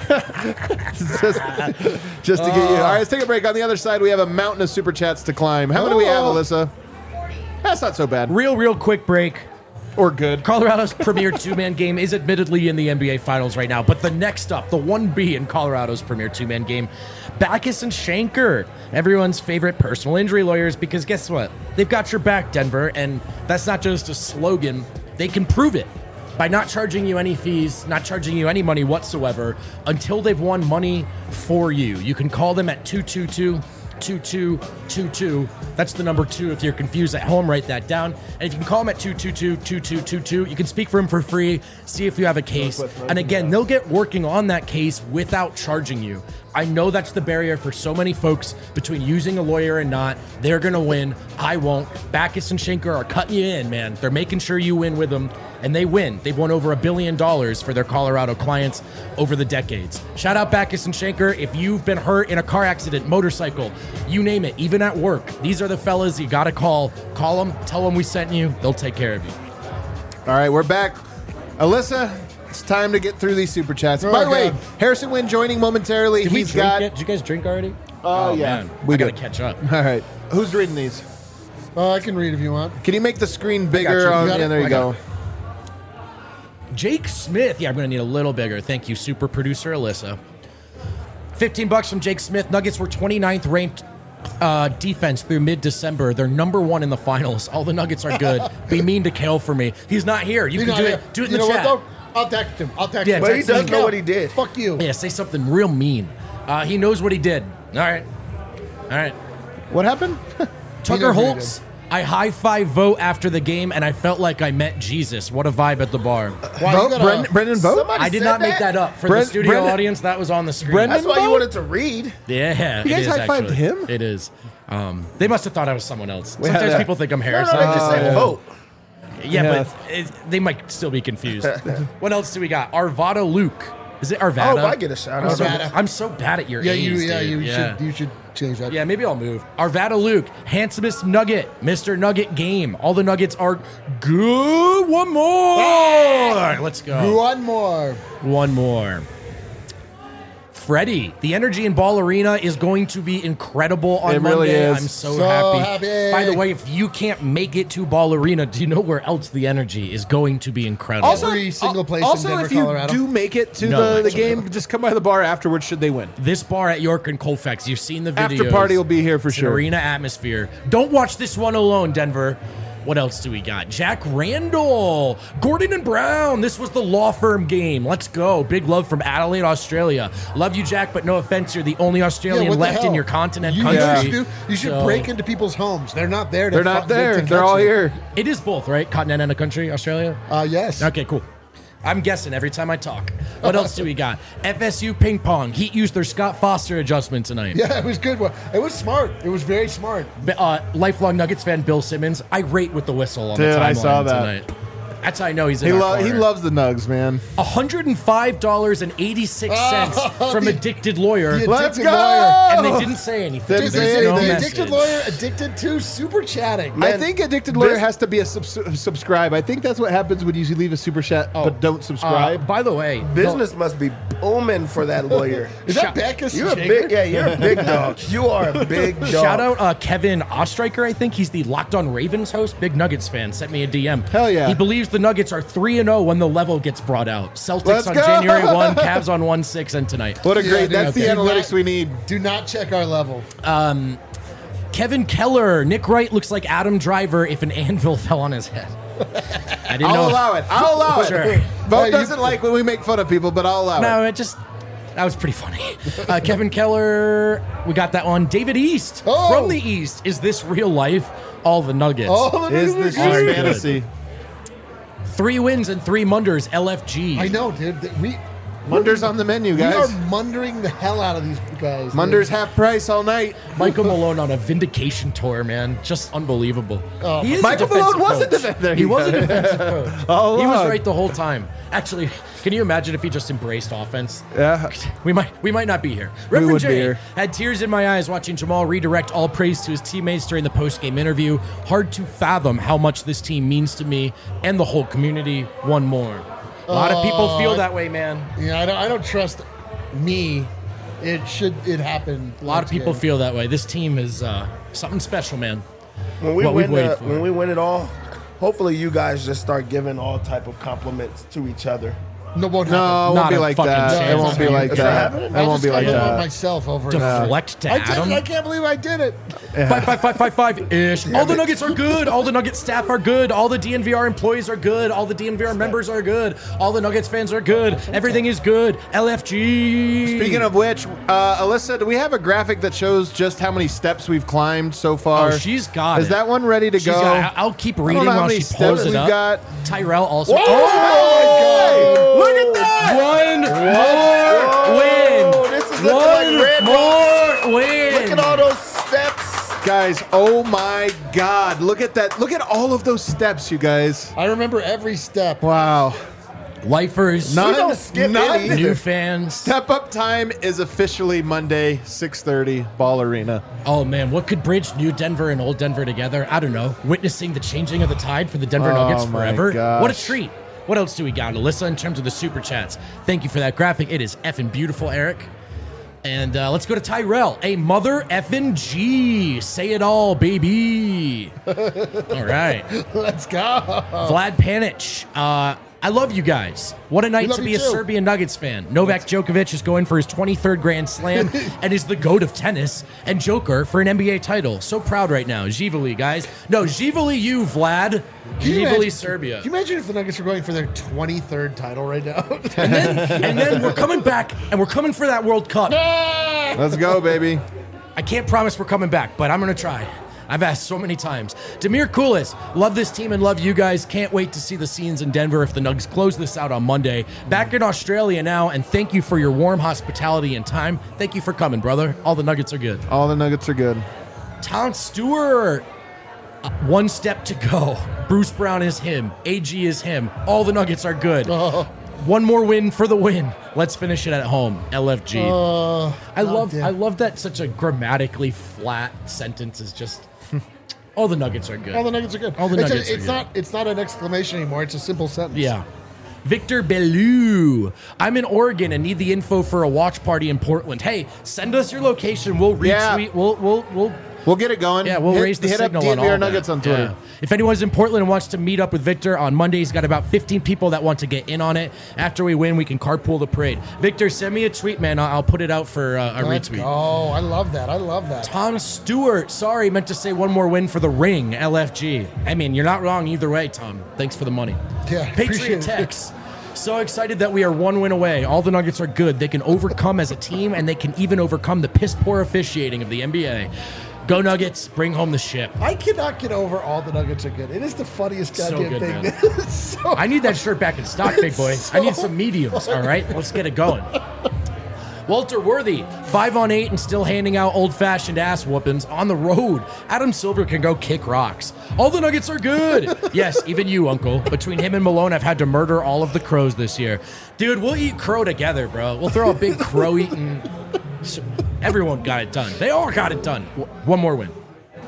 just, just to get you. All right, let's take a break. On the other side, we have a mountain of super chats to climb. How many do we have, Oh. Alyssa? That's not so bad. Real, real quick break. Or good. Colorado's premier two-man game is admittedly in the N B A Finals right now, but the next up, the one B in Colorado's premier two-man game, Backus and Shanker, everyone's favorite personal injury lawyers, because guess what? They've got your back, Denver, and that's not just a slogan. They can prove it by not charging you any fees, not charging you any money whatsoever until they've won money for you. You can call them at two two two, two two two two. That's the number two. If you're confused at home, write that down. And if you can call them at two two two, two two two two, you can speak for them for free, see if you have a case. And again, they'll get working on that case without charging you. I know that's the barrier for so many folks between using a lawyer and not. They're going to win. I won't. Backus and Shanker are cutting you in, man. They're making sure you win with them. and they win. They've won over a billion dollars for their Colorado clients over the decades. Shout out Backus and Schenker. If you've been hurt in a car accident, motorcycle, you name it, even at work, these are the fellas you got to call. Call them, tell them we sent you. They'll take care of you. All right, we're back. Alyssa, it's time to get through these super chats. Oh, By the way, God. Harrison Wynn joining momentarily. Did we He's drink got. yet? Did you guys drink already? Oh, yeah. Man, We I got to did. catch up. All right. Who's reading these? Uh, I can read if you want. Can you make the screen you. bigger? You On, got yeah, it? there you I got go. Jake Smith. Yeah, I'm going to need a little bigger. Thank you, super producer Alyssa. fifteen bucks from Jake Smith. Nuggets were twenty-ninth ranked uh, defense through mid-December. They're number one in the finals. All the Nuggets are good. Be mean to Kale for me. He's not here. You He's can not do here. it. Do it in You the know chat. what, though? I'll text him. I'll text Yeah, him. But he text does him. know what he did. Fuck you. Yeah, say something real mean. Uh, he knows what he did. All right. All right. What happened? Tucker knows what he Holtz. I high-five vote after the game, and I felt like I met Jesus. What a vibe at the bar. Wow, you Vote? gotta- Brendan, Brendan vote? Somebody I did said not make that? that up. For Brent- the studio Brendan- audience, that was on the screen. Brendan- That's why you vote? wanted to read. Yeah, You guys it is high-fived actually. him? It is. Um, they must have thought I was someone else. Yeah, Sometimes yeah. people think I'm No, Harrison. no, they just said yeah. vote. yeah, Yeah. but it, they might still be confused. What else do we got? Arvada Luke. Is it Arvada? Oh, I get a shout I'm out. so, Arvada. I'm so bad at your Yeah, A's, you. Yeah, dude. you yeah. should. You should change that. Yeah, maybe I'll move. Arvada Luke, handsomest Nugget, Mister Nugget Game. All the Nuggets are good. One more. Let's go. One more. One more. Freddie, the energy in Ball Arena is going to be incredible on It really Monday. is. I'm so, So happy. happy. By the way, if you can't make it to Ball Arena, do you know where else the energy is going to be incredible? Also- Every single place in Also, Denver, if you Colorado. do make it to No, the, the actually. game, just come by the bar afterwards should they win. This bar at York and Colfax, you've seen the videos. After party will be here for It's an sure. arena atmosphere. Don't watch this one alone, Denver. What else do we got? Jack Randall, Gordon and Brown. This was the law firm game. Let's go. Big love from Adelaide, Australia. Love you, Jack, but no offense, you're the only Australian what the left in hell? your continent You, country. know what you should do? You should So- break into people's homes. They're not there. To They're not fu- there. to catch They're all you. here. It is both, right? Continent and a country, Australia? Uh, yes. Okay, cool. I'm guessing every time I talk. What else do we got? F S U ping pong. Heat used their Scott Foster adjustment tonight. Yeah, it was good. It was smart. It was very smart. Uh, lifelong Nuggets fan Bill Simmons, irate with the whistle on Dude, the timeline I saw that. tonight. That's how I know he's in He, our lo- he corner. loves the Nugs, man. one hundred five dollars and eighty-six cents Oh, from the- Addicted Lawyer. the Let's Addicted go! Lawyer. And they didn't say anything. Didn't There's say no anything. The message. addicted lawyer, addicted to super chatting. I Man, think Addicted Lawyer this- has to be a sub- subscribe. I think that's what happens when you leave a super chat but don't Uh, subscribe. by the way, Business must be booming for that lawyer. Is Shout- that Backus? You're a Shaker? big, yeah, you're a big dog. You are a big dog. shout out uh, Kevin Ostreicher, I think. He's the Locked on Ravens host. Big Nuggets fan. Sent me a D M. Hell yeah. He believes the Nuggets are three and oh when the level gets brought out. Celtics Let's on go! January first, Cavs on one six, and tonight. What a Yeah, great, dude, that's the okay. analytics we need. Do not check our level. Kevin Keller, Nick Wright looks like Adam Driver if an anvil fell on his head. I didn't know. I'll allow it. I'll allow Sure. it. Vote Yeah, you- doesn't like when we make fun of people, but I'll allow No, it. it just that was pretty funny. Uh, Kevin Keller, we got that one. David East Oh. from the East. Is this real life? All the Nuggets. Oh, Is this just Are good. fantasy? Three wins and three munders. L F G. I know, dude. Th- We Munder's on the menu, we are guys. mundering the hell out of these guys. dude. Munder's half price all night. Michael Malone on a vindication tour, man. Just unbelievable. Oh. He is a Michael Malone defensive was a coach. defensive- there He you was go. a defensive coach. All he was along. right the whole time. Actually, can you imagine if he just embraced offense? Yeah. We might we might not be here. We Reverend would be J here. had tears in my eyes watching Jamal redirect all praise to his teammates during the post-game interview. Hard to fathom how much this team means to me and the whole community. One more. A lot of people Oh, feel I- that way, man. Yeah, I don't. I don't trust me. It should. It happen. A lot of people feel that way. This team is uh, something special, man. when we what we've win waited the, for. when we win it all, hopefully you guys just start giving all type of compliments to each other. No, won't No, it happen. won't Not be a like fucking that. It chance. won't be like It's not that. happening? It I won't just be got like hit with that. myself over. Deflect to I did it. Adam. I can't believe I did it. Five, five, five, five, five ish. All the Nuggets are good. All the Nuggets staff are good. All the D N V R employees are good. All the D N V R members are good. All the Nuggets fans are good. Everything is good. L F G. Speaking of which, uh, Alyssa, do we have a graphic that shows just how many steps we've climbed so far? Oh, she's got Is it. that one ready to She's go? got- I'll keep I don't reading know how while many she steps pulls it we've up. got. Tyrell also. Oh, look at that! One more win. Whoa, this is looking One like Red more win. Look at all those steps. Guys, oh my God. Look at that. Look at all of those steps, you guys. I remember every step. Wow. Lifers, None, don't skip none. any. new fans. Step up time is officially Monday, six thirty, Ball Arena. Oh man, what could bridge New Denver and Old Denver together? I don't know. Witnessing the changing of the tide for the Denver Oh, Nuggets my forever. gosh. What a treat. What else do we got, Alyssa, in terms of the super chats? Thank you for that graphic. It is effing beautiful, Eric. And uh, let's go to Tyrell. A mother effing G. Say it all, baby. All right. Let's go. Vlad Panic. Uh, I love you guys. What a night love to be you a too. Serbian Nuggets fan. Novak Djokovic is going for his twenty-third Grand Slam and is the GOAT of tennis and Joker for an N B A title. So proud right now. Živali, guys. No, Živali you, Vlad. Can you Živali, imagine- Serbia. Can you imagine if the Nuggets were going for their twenty-third title right now? And then, and then we're coming back, and we're coming for that World Cup. Let's go, baby. I can't promise we're coming back, but I'm going to try. I've asked so many times. Demir Koulis, love this team and love you guys. Can't wait to see the scenes in Denver if the Nuggets close this out on Monday. Back in Australia now, and thank you for your warm hospitality and time. Thank you for coming, brother. All the Nuggets are good. All the Nuggets are good. Tom Stewart, uh, one step to go. Bruce Brown is him. A G is him. All the Nuggets are good. One more win for the win. Let's finish it at home. L F G. Uh, I love damn. I love that such a grammatically flat sentence is just all the Nuggets are good. all the Nuggets are good. All the it's Nuggets a, are it's good. not. It's not an exclamation anymore. It's a simple sentence. Yeah. Victor Bellew. I'm in Oregon and need the info for a watch party in Portland. Hey, send us your location. We'll retweet. Yeah. We'll we'll we'll We'll get it going. Yeah, we'll hit, raise the hit up signal on D N V R all Nuggets that. on Twitter. Yeah. If anyone's in Portland and wants to meet up with Victor on Monday, he's got about fifteen people that want to get in on it. After we win, we can carpool the parade. Victor, send me a tweet, man. I'll, I'll put it out for uh, a Let's retweet. go. I love that. I love that. Tom Stewart. Sorry, meant to say one more win for the ring, L F G. I mean, you're not wrong either way, Tom. Thanks for the money. Yeah, Patriot appreciate it. Tex. So excited that we are one win away. All the Nuggets are good. They can overcome as a team, and they can even overcome the piss-poor officiating of the N B A. Go Nuggets, bring home the ship. I cannot get over all the Nuggets are good. It is the funniest So goddamn good, thing. man. It's so I need that shirt back in stock, big boy. I need some mediums, all right? Let's get it going. Walter Worthy, five on eight and still handing out old-fashioned ass whoopings on the road. Adam Silver can go kick rocks. All the Nuggets are good. Yes, even you, Uncle. Between him and Malone, I've had to murder all of the crows this year. Dude, we'll eat crow together, bro. We'll throw a big crow-eating... Everyone got it done. They all got it done. One more win.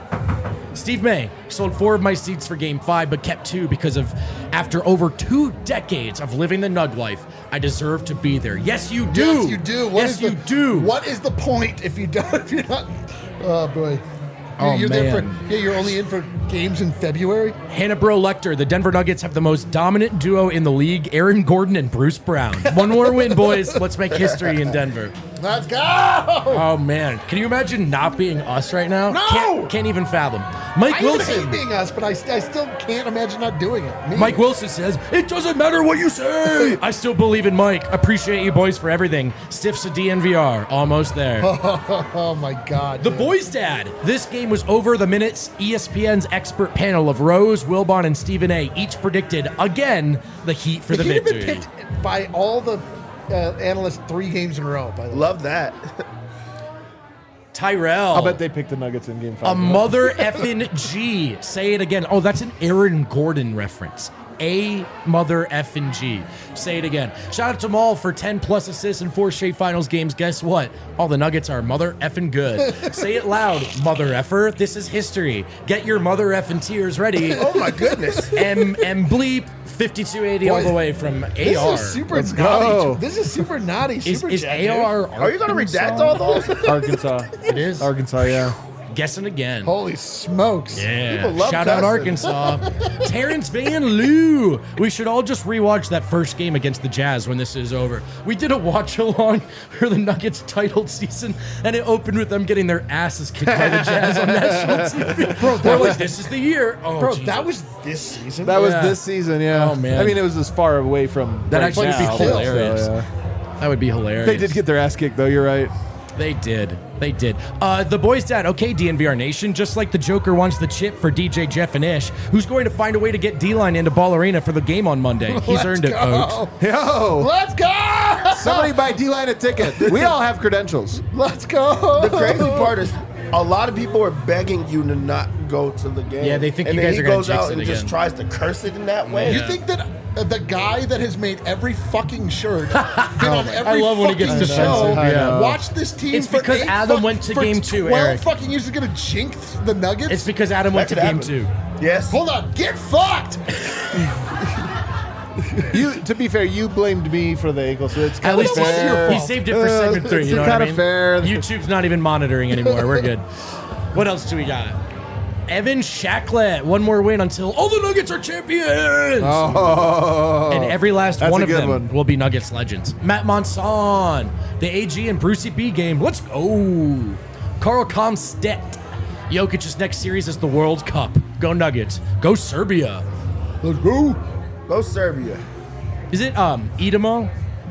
Steve May sold four of my seats for game five, but kept two because of after over two decades of living the Nug life, I deserve to be there. Yes, you do. Yes, you do. What yes, is you the, do. What is the point if you don't? If you're not? Oh boy. Oh, you're there man. for. Yeah, you're only in for games in February. Hannah Bro Lecter, the Denver Nuggets have the most dominant duo in the league, Aaron Gordon and Bruce Brown. One more win, boys. Let's make history in Denver. Let's go. Oh, man. Can you imagine not being us right now? No! Can't, can't even fathom. Mike I even Wilson. hate being us, but I, I still can't imagine not doing it. Me. Mike Wilson says, it doesn't matter what you say. I still believe in Mike. Appreciate you boys for everything. Stiffs a D N V R. Almost there. Oh my God. The dude. boys' dad. This game was over the minutes. E S P N's expert panel of Rose, Wilbon, and Stephen A. each predicted, again, the Heat for the, He'd have been victory. picked by all the uh, analysts three games in a row. By the way. Love that. Tyrell. I'll bet they picked the Nuggets in game five. A mother effing G. Say it again. Oh, that's an Aaron Gordon reference. A mother effing G. Say it again. Shout out to Maul for ten plus assists in four straight finals games. Guess what? All the Nuggets are mother effing good. Say it loud, mother effer. This is history. Get your mother effing tears ready. Oh my goodness. M M bleep fifty-two eighty all the way from A This R. is super Let's naughty. go. This is super naughty. Is, Super is chat, A R? Are you gonna Arkansas? redact all those? Arkansas. It is. Arkansas, yeah. Guessing again. dude? Holy smokes. Yeah. People love Shout out cussing. Arkansas. Terrence Van Loo. We should all just rewatch that first game against the Jazz when this is over. We did a watch along for the Nuggets titled season, and it opened with them getting their asses kicked by the Jazz on national T V. Bro, they're like, this is the year. Oh, Bro, Jesus. that was this season. That was Yeah. this season, yeah. Oh, man. I mean, it was as far away from That right actually would be now, hilarious. so, yeah. That would be hilarious. They did get their ass kicked, though. You're right. They did. They did. Uh, the boys' dad, okay, D N V R Nation, just like the Joker wants the chip for D J Jeff and Ish, who's going to find a way to get D-Line into Ball Arena for the game on Monday. He's Let's earned it, go. folks. Yo! Let's go. Somebody buy D-Line a ticket. We all have credentials. Let's go. The crazy part is A lot of people are begging you to not go to the game. Yeah, they think and you then guys he are gonna goes jinx out it and again. just tries to curse it in that way. You think that uh, the guy that has made every fucking shirt, been on every I love when he gets fucking show, defensive, yeah. watched this team It's for because eight Adam fuck- went to for game two, twelve Eric. fucking years is going to jinx the Nuggets? It's because Adam went That to could game happen. two. Yes. Hold on, get fucked! You, to be fair, you blamed me for the ankle, so it's At kind least of he, fair. he saved it for Uh, segment three. it's You know what I kinda mean? fair. YouTube's not even monitoring anymore. We're good. What else do we got? Evan Shacklet, one more win until all the Nuggets are champions. Oh, And every last that's one a of good them one. will be Nuggets legends. Matt Monson, the A G and Brucey B game. Let's go. Carl Comstedt. Jokic's next series is the World Cup. Go Nuggets. Go Serbia. Let's go. Go Serbia. Is it um Idemo?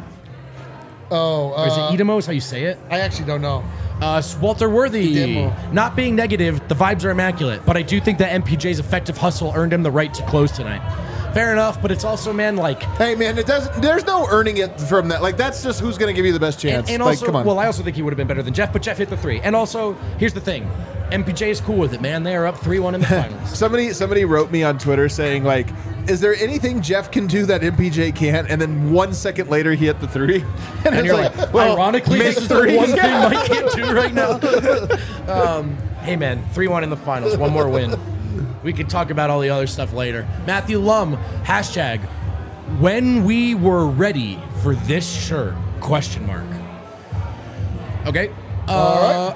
Oh, Or is it uh, Idemo is how you say it? I actually don't know. Uh, Walter Worthy. Idemo. Not being negative, the vibes are immaculate, but I do think that M P J's effective hustle earned him the right to close tonight. Fair enough, but it's also, man, like... Hey man, it doesn't. There's no earning it from that. Like that's just who's going to give you the best chance. And, and like, also, come on. well, I also think he would have been better than Jeff, but Jeff hit the three. And also, here's the thing. M P J is cool with it, man. They are up three one in the finals. Somebody somebody wrote me on Twitter saying like, "Is there anything Jeff can do that M P J can't?" And then one second later, he hit the three. And, And it's you're like, well, ironically, make this is three. the one thing Mike can't do right now. um, hey, man, three one in the finals. One more win. We could talk about all the other stuff later. Matthew Lum, hashtag, when we were ready for this shirt, question mark. Okay. Uh, All right.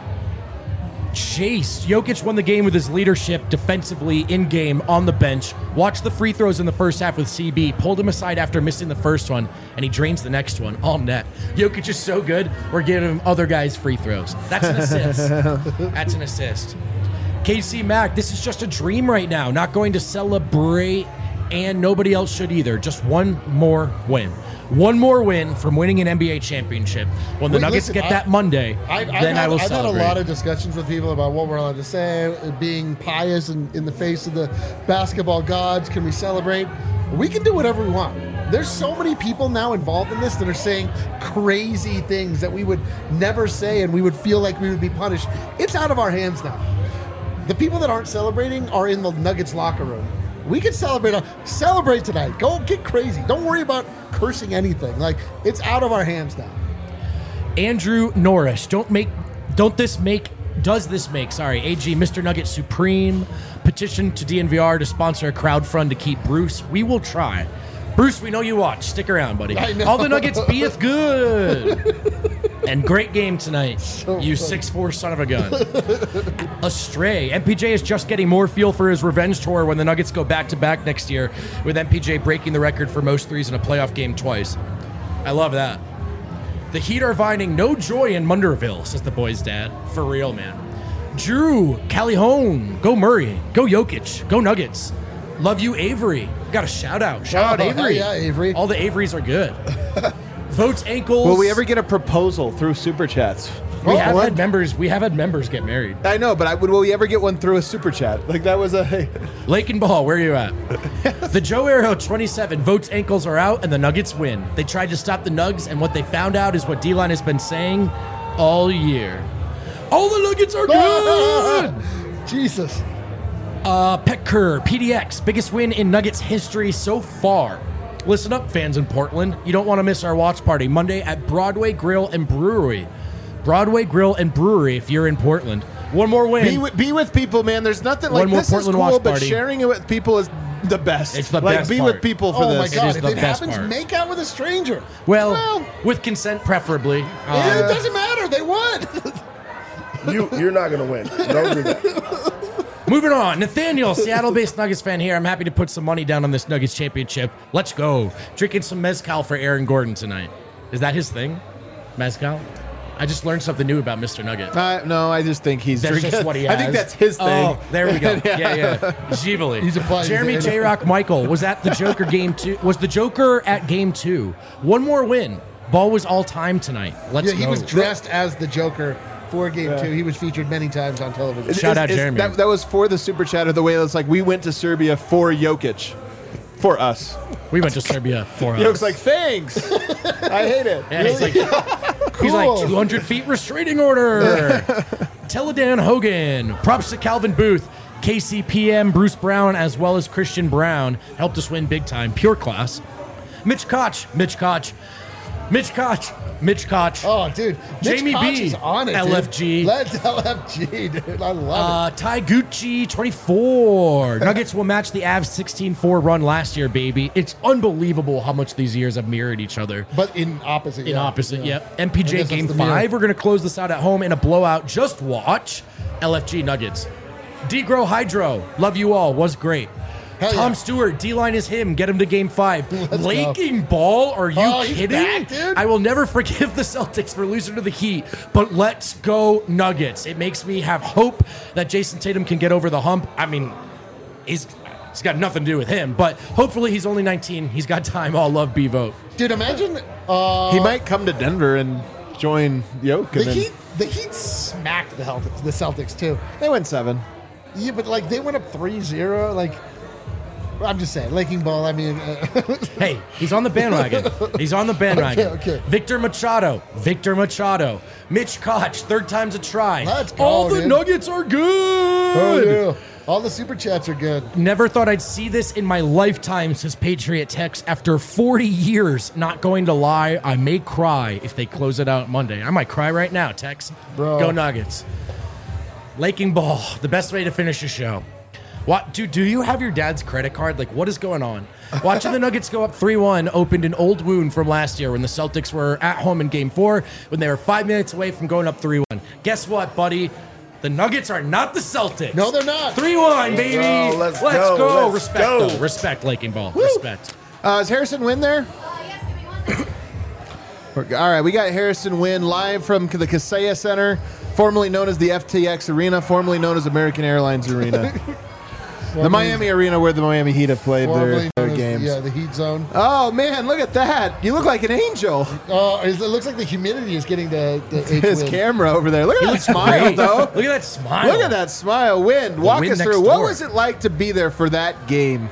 Chase. Jokic won the game with his leadership defensively in game on the bench. Watched the free throws in the first half with C B. Pulled him aside after missing the first one, and he drains the next one. All net. Jokic is so good, we're giving him other guys free throws. That's an assist. That's an assist. K C Mack, this is just a dream right now. Not going to celebrate, and nobody else should either. Just one more win. One more win from winning an N B A championship. When the Wait, Nuggets listen, get I- that Monday, I've, I've then had, I will I've celebrate. had a lot of discussions with people about what we're allowed to say, being pious in, in the face of the basketball gods. Can we celebrate? We can do whatever we want. There's so many people now involved in this that are saying crazy things that we would never say, and we would feel like we would be punished. It's out of our hands now. The people that aren't celebrating are in the Nuggets locker room. We can celebrate. Celebrate tonight. Go get crazy. Don't worry about cursing anything. Like, it's out of our hands now. Andrew Norris, don't make, don't this make, does this make, sorry, A G, Mister Nugget Supreme, petition to D N V R to sponsor a crowd fund to keep Bruce. We will try. Bruce, we know you watch. Stick around, buddy. I know. All the Nuggets beeth good. And great game tonight, So you funny. six foot four son of a gun. Astray. M P J is just getting more fuel for his revenge tour when the Nuggets go back-to-back next year, with M P J breaking the record for most threes in a playoff game twice. I love that. The Heat are finding no joy in Munderville, says the boy's dad. For real, man. Drew, Calhoun, go Murray, go Jokic, go Nuggets. Love you, Avery. Got a shout out. Shout Oh, out, Avery. hell yeah, Avery. All the Averys are good. Votes ankles. Will we ever get a proposal through super chats? We Oh, have what? had members. We have had members get married. I know, but I, will we ever get one through a super chat? Like that was a. Lake and Ball, where are you at? The Joe Arrow twenty-seven votes ankles are out and the Nuggets win. They tried to stop the Nugs, and what they found out is what D-Line has been saying all year. All the Nuggets are good. Jesus. Uh, Petker, P D X, biggest win in Nuggets history so far. Listen up, fans in Portland. You don't want to miss our watch party Monday at Broadway Grill and Brewery. Broadway Grill and Brewery if you're in Portland. One more win. Be with, be with people, man. There's nothing like One more this Portland is cool, watch but party. sharing it with people is the best. It's the like, best be part. with people for Oh my this. God! is If the it best happens, part. make out with a stranger. well, Well- with consent preferably. Yeah, Uh, it doesn't matter. They won. You, you're not going to win. Don't do that. Moving on, Nathaniel, Seattle-based Nuggets fan here. I'm happy to put some money down on this Nuggets championship. Let's go. Drinking some mezcal for Aaron Gordon tonight. Is that his thing? Mezcal? I just learned something new about Mister Nugget. Uh, no, I just think he's That's drinking. just what he has. I think that's his thing. Oh, there we go. yeah, yeah. Givali. He's applying Jeremy his- J. Rock Michael was at the Joker game two. Was the Joker at game two? One more win. Ball was all time tonight. Let's Yeah, he go. was dressed as the Joker for Game Two. He was featured many times on television. Is- Shout is- out is- Jeremy. That, that was for the super chat of the way it's like we went to Serbia for Jokic. For us. We went to Serbia for us. Jokic's like, thanks. I hate it. Yeah, he's like, he's Cool. like two hundred feet restraining order. Teledan Hogan. Props to Calvin Booth. K C P M, Bruce Brown, as well as Christian Brown helped us win big time. Pure class. Mitch Koch. Mitch Koch. Mitch Koch. Mitch Koch. Oh, dude. Mitch Jamie Koch B. is on it, L F G. Dude. Let's L F G, dude. I love Uh, Ty Gucci, twenty-four. Nuggets will match the Avs sixteen four run last year, baby. It's unbelievable how much these years have mirrored each other. it. But in opposite. In yeah. opposite, yeah. yep. M P I J guess game that's the mirror. five. We're going to close this out at home in a blowout. Just watch L F G Nuggets. D-Grow Hydro. Love you all. Was great. Hell Tom yeah. Stewart, D-line is him. Get him to game five. Let's Laking Ball? Are you Oh, he's kidding? back, dude. I will never forgive the Celtics for losing to the Heat, but let's go Nuggets. It makes me have hope that Jason Tatum can get over the hump. I mean, he's he's got nothing to do with him, but hopefully he's only nineteen. He's got time. All love B-Vote. Dude, imagine uh, He might come to Denver and join Yoke. the And then Heat. The Heat smacked the Celtics, the Celtics too. they went seven. Yeah, but like they went up three zero. Like, I'm just saying, Laking Ball. I mean, uh, Hey, he's on the bandwagon. He's on the bandwagon. Okay, okay. Victor Machado. Victor Machado. Mitch Koch. Third time's a try. Let's go, All the dude. Nuggets are good. oh yeah, all the super chats are good. Never thought I'd see this in my lifetime, says Patriot Tex. After forty years, not going to lie, I may cry if they close it out Monday. I might cry right now, Tex. Bro. Go Nuggets. Laking Ball, the best way to finish a show. What, dude, do you have your dad's credit card? Like, what is going on? Watching the Nuggets go up three one opened an old wound from last year when the Celtics were at home in game four, when they were five minutes away from going up three one. Guess what, buddy? The Nuggets are not the Celtics. No, they're not. three one, baby. Bro, let's go, go. let's Respect, go. though. Respect, Laking Ball. Respect. Uh, is Harrison Wynn there? Uh, yes, give me one second. All right, we got Harrison Wynn live from the Kaseya Center, formerly known as the F T X Arena, formerly known as American Airlines Arena. The Miami Arena where the Miami Heat have played their, Formerly their known as- games. Yeah, the Heat zone. Oh, man, look at that. You look like an angel. Oh, it looks like the humidity is getting the, the H His wind. camera over there. Look at that Looks smile, great. though. Look at that smile. Look at that smile. Win. Walk wind us next through. What door. was it like to be there for that game?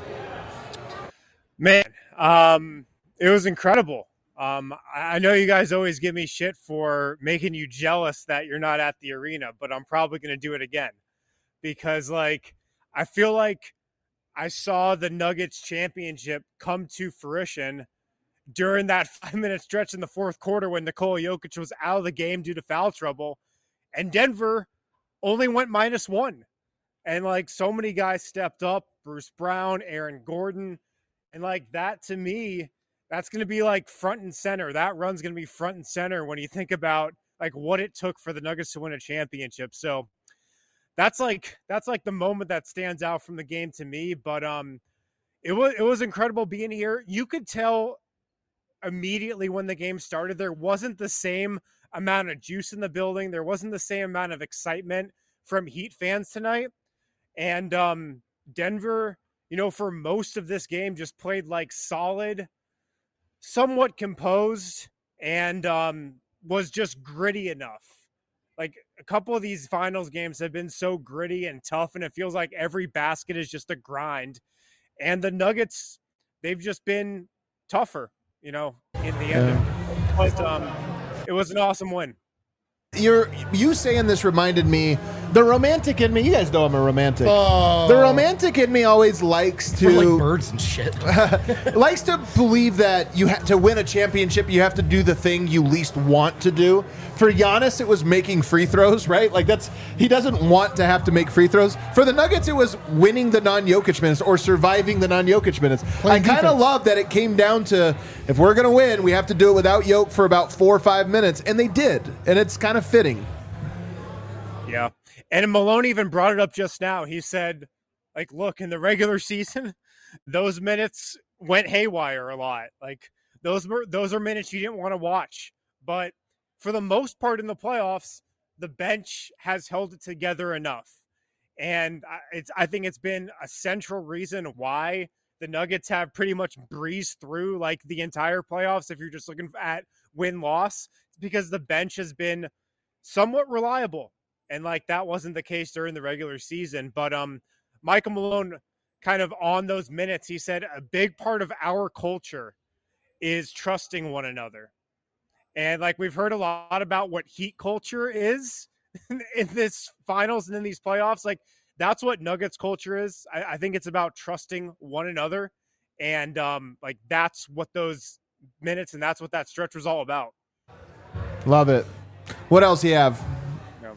Man, um, it was incredible. Um, I I know you guys always give me shit for making you jealous that you're not at the arena, but I'm probably going to do it again because, like, I feel like I saw the Nuggets championship come to fruition during that five-minute stretch in the fourth quarter when Nikola Jokic was out of the game due to foul trouble, and Denver only went minus one. And, like, so many guys stepped up, Bruce Brown, Aaron Gordon, and, like, that to me, that's going to be, like, front and center. That run's going to be front and center when you think about, like, what it took for the Nuggets to win a championship. So that's, like, that's, like, the moment that stands out from the game to me. But um, it was, it was incredible being here. You could tell immediately when the game started, there wasn't the same amount of juice in the building. There wasn't the same amount of excitement from Heat fans tonight. And um, Denver, you know, for most of this game, just played like solid, somewhat composed, and um, was just gritty enough. Like a couple of these finals games have been so gritty and tough, and it feels like every basket is just a grind. And the Nuggets, they've just been tougher, you know, in the end. But um, it was an awesome win. You're you saying this reminded me, the romantic in me. You guys know I'm a romantic. Oh. The romantic in me always likes For like to birds and shit. likes to believe that you have to win a championship. You have to do the thing you least want to do. For Giannis, it was making free throws, right? Like that's he doesn't want to have to make free throws. For the Nuggets, it was winning the non-Jokic minutes or surviving the non-Jokic minutes. Playing I kind of defense. love that it came down to if we're gonna win, we have to do it without Jokic for about four or five minutes, and they did, and it's kind of fitting. Yeah. And Malone even brought it up just now. He said, like, look, in the regular season, those minutes went haywire a lot. Like, those were those are minutes you didn't want to watch. But for the most part in the playoffs, the bench has held it together enough. And I- it's I think it's been a central reason why the Nuggets have pretty much breezed through like the entire playoffs. If you're just looking at win-loss, it's because the bench has been somewhat reliable. And like that wasn't the case during the regular season. But um, Michael Malone kind of on those minutes, he said a big part of our culture is trusting one another. And like we've heard a lot about what Heat culture is. in this finals and in these playoffs. Like, that's what Nuggets culture is. I, I think it's about trusting one another. And um, like, that's what those minutes and that's what that stretch was all about. Love it. What else do you have? No.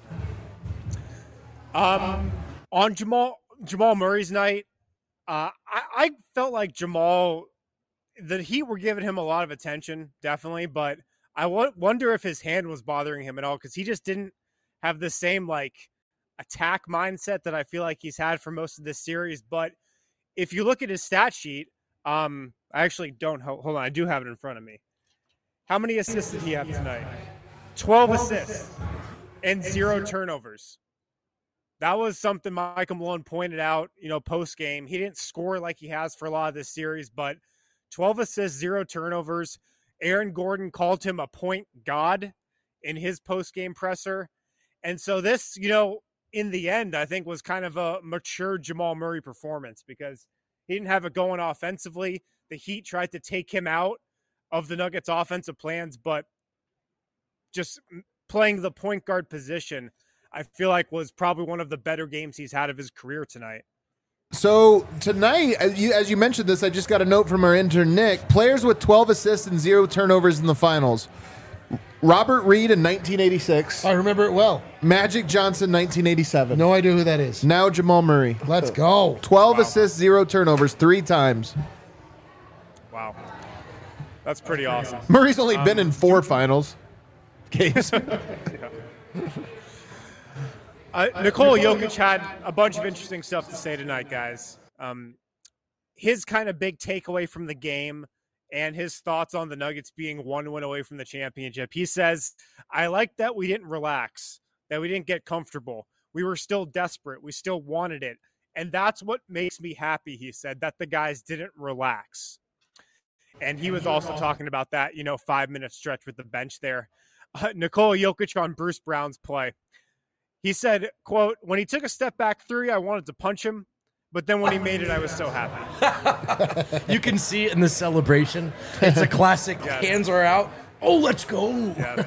Um, on Jamal, Jamal Murray's night, uh, I, I felt like Jamal, the Heat were giving him a lot of attention, definitely, but I w- wonder if his hand was bothering him at all, because he just didn't have the same like attack mindset that I feel like he's had for most of this series. But if you look at his stat sheet, um, I actually don't. Hold on, I do have it in front of me. How many assists did he have tonight? twelve assists and zero turnovers. That was something Michael Malone pointed out, you know, post game. He didn't score like he has for a lot of this series, but twelve assists, zero turnovers. Aaron Gordon called him a point god in his post game presser. And so this, you know, in the end, I think was kind of a mature Jamal Murray performance, because he didn't have it going offensively. The Heat tried to take him out of the Nuggets offensive plans, but just playing the point guard position, I feel like was probably one of the better games he's had of his career tonight. So tonight, as you, as you mentioned this, I just got a note from our intern, Nick. Players with twelve assists and zero turnovers in the finals. Robert Reed in nineteen eighty-six. I remember it well. Magic Johnson, nineteen eighty-seven. No idea who that is. Now Jamal Murray. Let's go. twelve Wow. assists, zero turnovers, three times. Wow. That's pretty awesome. Murray's only Um, been in four finals games. Uh, Nikola Jokic had a bunch of interesting stuff to say tonight, guys. Um, his kind of big takeaway from the game and his thoughts on the Nuggets being one win away from the championship. He says, I like that we didn't relax, that we didn't get comfortable. We were still desperate. We still wanted it. And that's what makes me happy, he said, that the guys didn't relax. And he was also talking about that, you know, five-minute stretch with the bench there. Uh, Nikola Jokic on Bruce Brown's play. He said, quote, when he took a step back three, I wanted to punch him. But then when he made it, I was so happy. You can see it in the celebration. It's a classic. Yes. Hands are out. Oh, let's go. Yeah.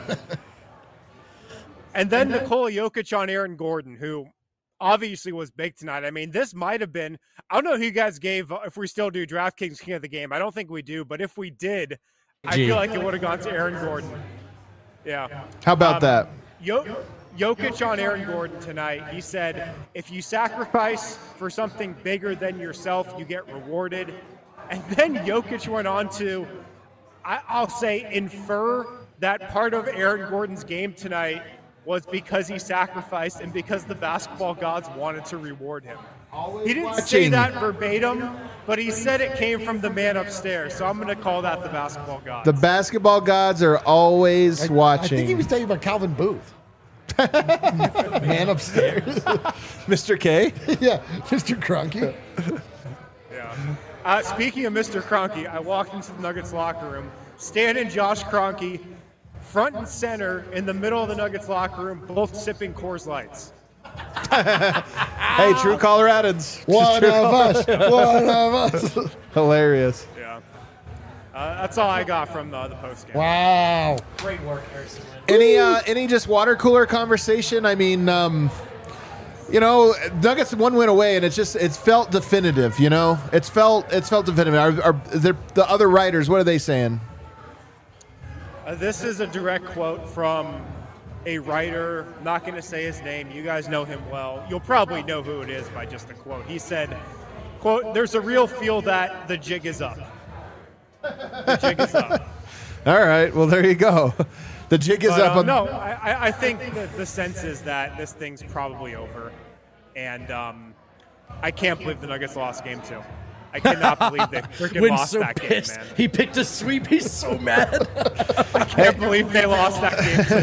And then Nikola Jokic on Aaron Gordon, who obviously was big tonight. I mean, this might have been, I don't know who you guys gave, uh, if we still do DraftKings King of the Game. I don't think we do, but if we did, I Gee. feel like it would have gone to Aaron Gordon. Yeah. How about Um, that? Yo- Jokic on Aaron Gordon tonight, he said, if you sacrifice for something bigger than yourself, you get rewarded. And then Jokic went on to, I- I'll say, infer that part of Aaron Gordon's game tonight was because he sacrificed and because the basketball gods wanted to reward him. He didn't say watching. that verbatim, but he said it came from the man upstairs. So I'm going to call that the basketball gods. The basketball gods are always I watching. think he was talking about Calvin Booth. Man upstairs. Mister K. Yeah, Mister Cronky. Yeah. Uh, speaking of Mister Kroenke, I walked into the Nuggets locker room. Stan and Josh Kroenke, front and center in the middle of the Nuggets locker room, both sipping Coors Lights. Hey, true Coloradans. One True of us. One of us. Hilarious. Yeah. Uh, that's all I got from the, the post game. Wow. Great work, Harrison. Any uh, any just water cooler conversation? I mean, um, you know, Nuggets one win away, and it's just it's felt definitive. You know, it's felt it's felt definitive. Are, are the the other writers? What are they saying? Uh, this is a direct quote from a writer. I'm not going to say his name. You guys know him well. You'll probably know who it is by just the quote. He said, quote, there's a real feel that the jig is up. The jig is up. All right. Well, there you go. The jig is But, up. um, On, no, I, I think that the sense is that this thing's probably over. And um, I can't believe the Nuggets lost game two. I cannot believe they freaking Wynn's lost so that pissed. game, man. He picked a sweep. He's so mad. I can't believe they lost that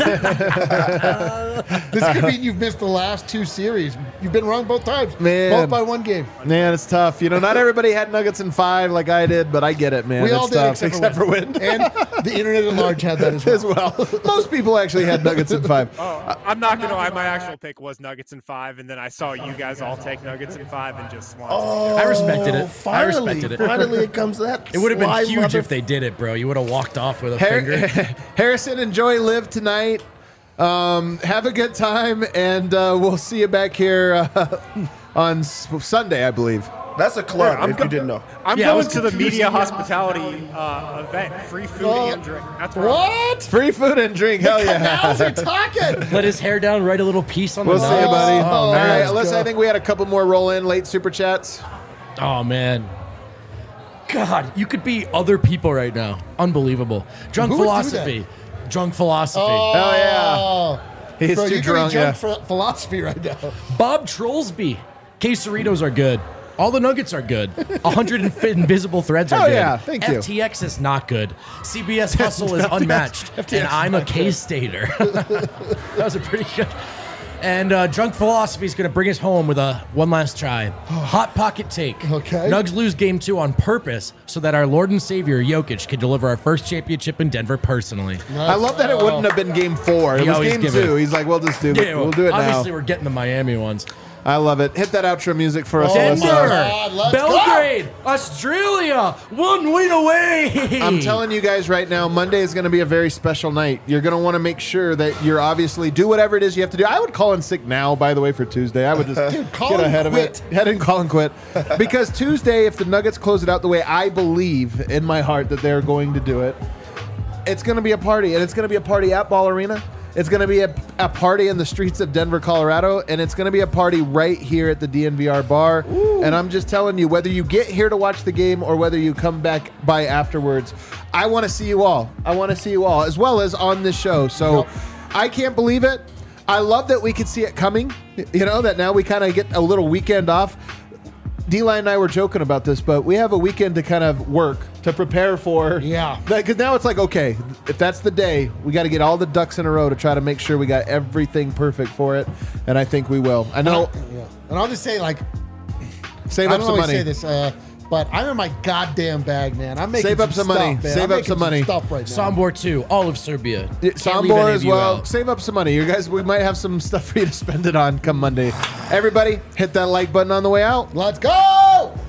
game. This could mean you've missed the last two series. You've been wrong both times. Man. Both by one game. Man, it's tough. You know, not everybody had Nuggets in five like I did, but I get it, man. We it's all did, tough, except, for Wynn. Wynn. And the internet at large had that as well. as well. Most people actually had Nuggets in five. Oh, I'm not going to lie. My actual pick was Nuggets in five, and then I saw you guys all take Nuggets in five and just swan. Oh, I respected it. I Finally, respected it. finally, it comes to that. It would have been sly huge mother- if they did it, bro. You would have walked off with a Har- finger. Harrison, enjoy Live tonight. Um, have a good time, and uh, we'll see you back here uh, on S- Sunday, I believe. That's a club, Yeah, I'm if go- you didn't know. I'm Yeah, I going was to the confused. media hospitality uh, event, free food Oh. and drink. That's where I'm- What? Free food and drink. Hell yeah. Canals are talking. Let his hair down, write a little piece on We'll the see you, nose. buddy. Oh, All man. right, Let's Alyssa, go. I think we had a couple more roll in late super chats. Oh man. God, you could be other people right now. Unbelievable. Drunk Who would do philosophy. Drunk philosophy. Hell yeah. Oh. He's Bro, too you're drunk. doing Yeah. junk ph- philosophy right now. Bob Trollsby. Quesaritos are good. All the nuggets are good. one hundred inf- invisible threads are Oh, good. yeah. Thank you. F T X is not good. C B S Hustle is unmatched. And I'm a K-Stater. That was a pretty good. And uh, Drunk Philosophy is going to bring us home with a one last try. Hot pocket take. Okay. Nugs lose game two on purpose so that our Lord and Savior Jokic can deliver our first championship in Denver personally. I love that it wouldn't have been game four. It He was always game give two. it. He's like, we'll just do it. Yeah, We'll do it obviously now. we're getting the Miami ones. I love it. Hit that outro music for us, Denver, Alyssa. God, let's Belgrade, Australia, one win away. I'm telling you guys right now, Monday is going to be a very special night. You're going to want to make sure that you're obviously do whatever it is you have to do. I would call in sick now, by the way, for Tuesday. I would just Dude, call get and ahead quit. of it. Head and call and quit. Because Tuesday, if the Nuggets close it out the way I believe in my heart that they're going to do it, it's going to be a party. And it's going to be a party at Ball Arena. It's going to be a, a party in the streets of Denver, Colorado, and it's going to be a party right here at the D N V R bar. Ooh. And I'm just telling you, whether you get here to watch the game or whether you come back by afterwards, I want to see you all. I want to see you all, as well as on this show. So Yep. I can't believe it. I love that we could see it coming, you know, that now we kind of get a little weekend off. D-Line and I were joking about this, but we have a weekend to kind of work, to prepare for. Yeah. Because now it's like, okay, if that's the day, we got to get all the ducks in a row to try to make sure we got everything perfect for it. And I think we will. I know. Yeah. And I'll just say, like, Save I up don't some always money. say this, uh, but I'm in my goddamn bag, man. I'm making Save up some stuff, money. Man. Save I'm up making some money. Stuff right now. Sombor two, all of Serbia. Yeah, Can't leave Sombor any as of you well. out. Save up some money. You guys, we might have some stuff for you to spend it on come Monday. Everybody, hit that like button on the way out. Let's go!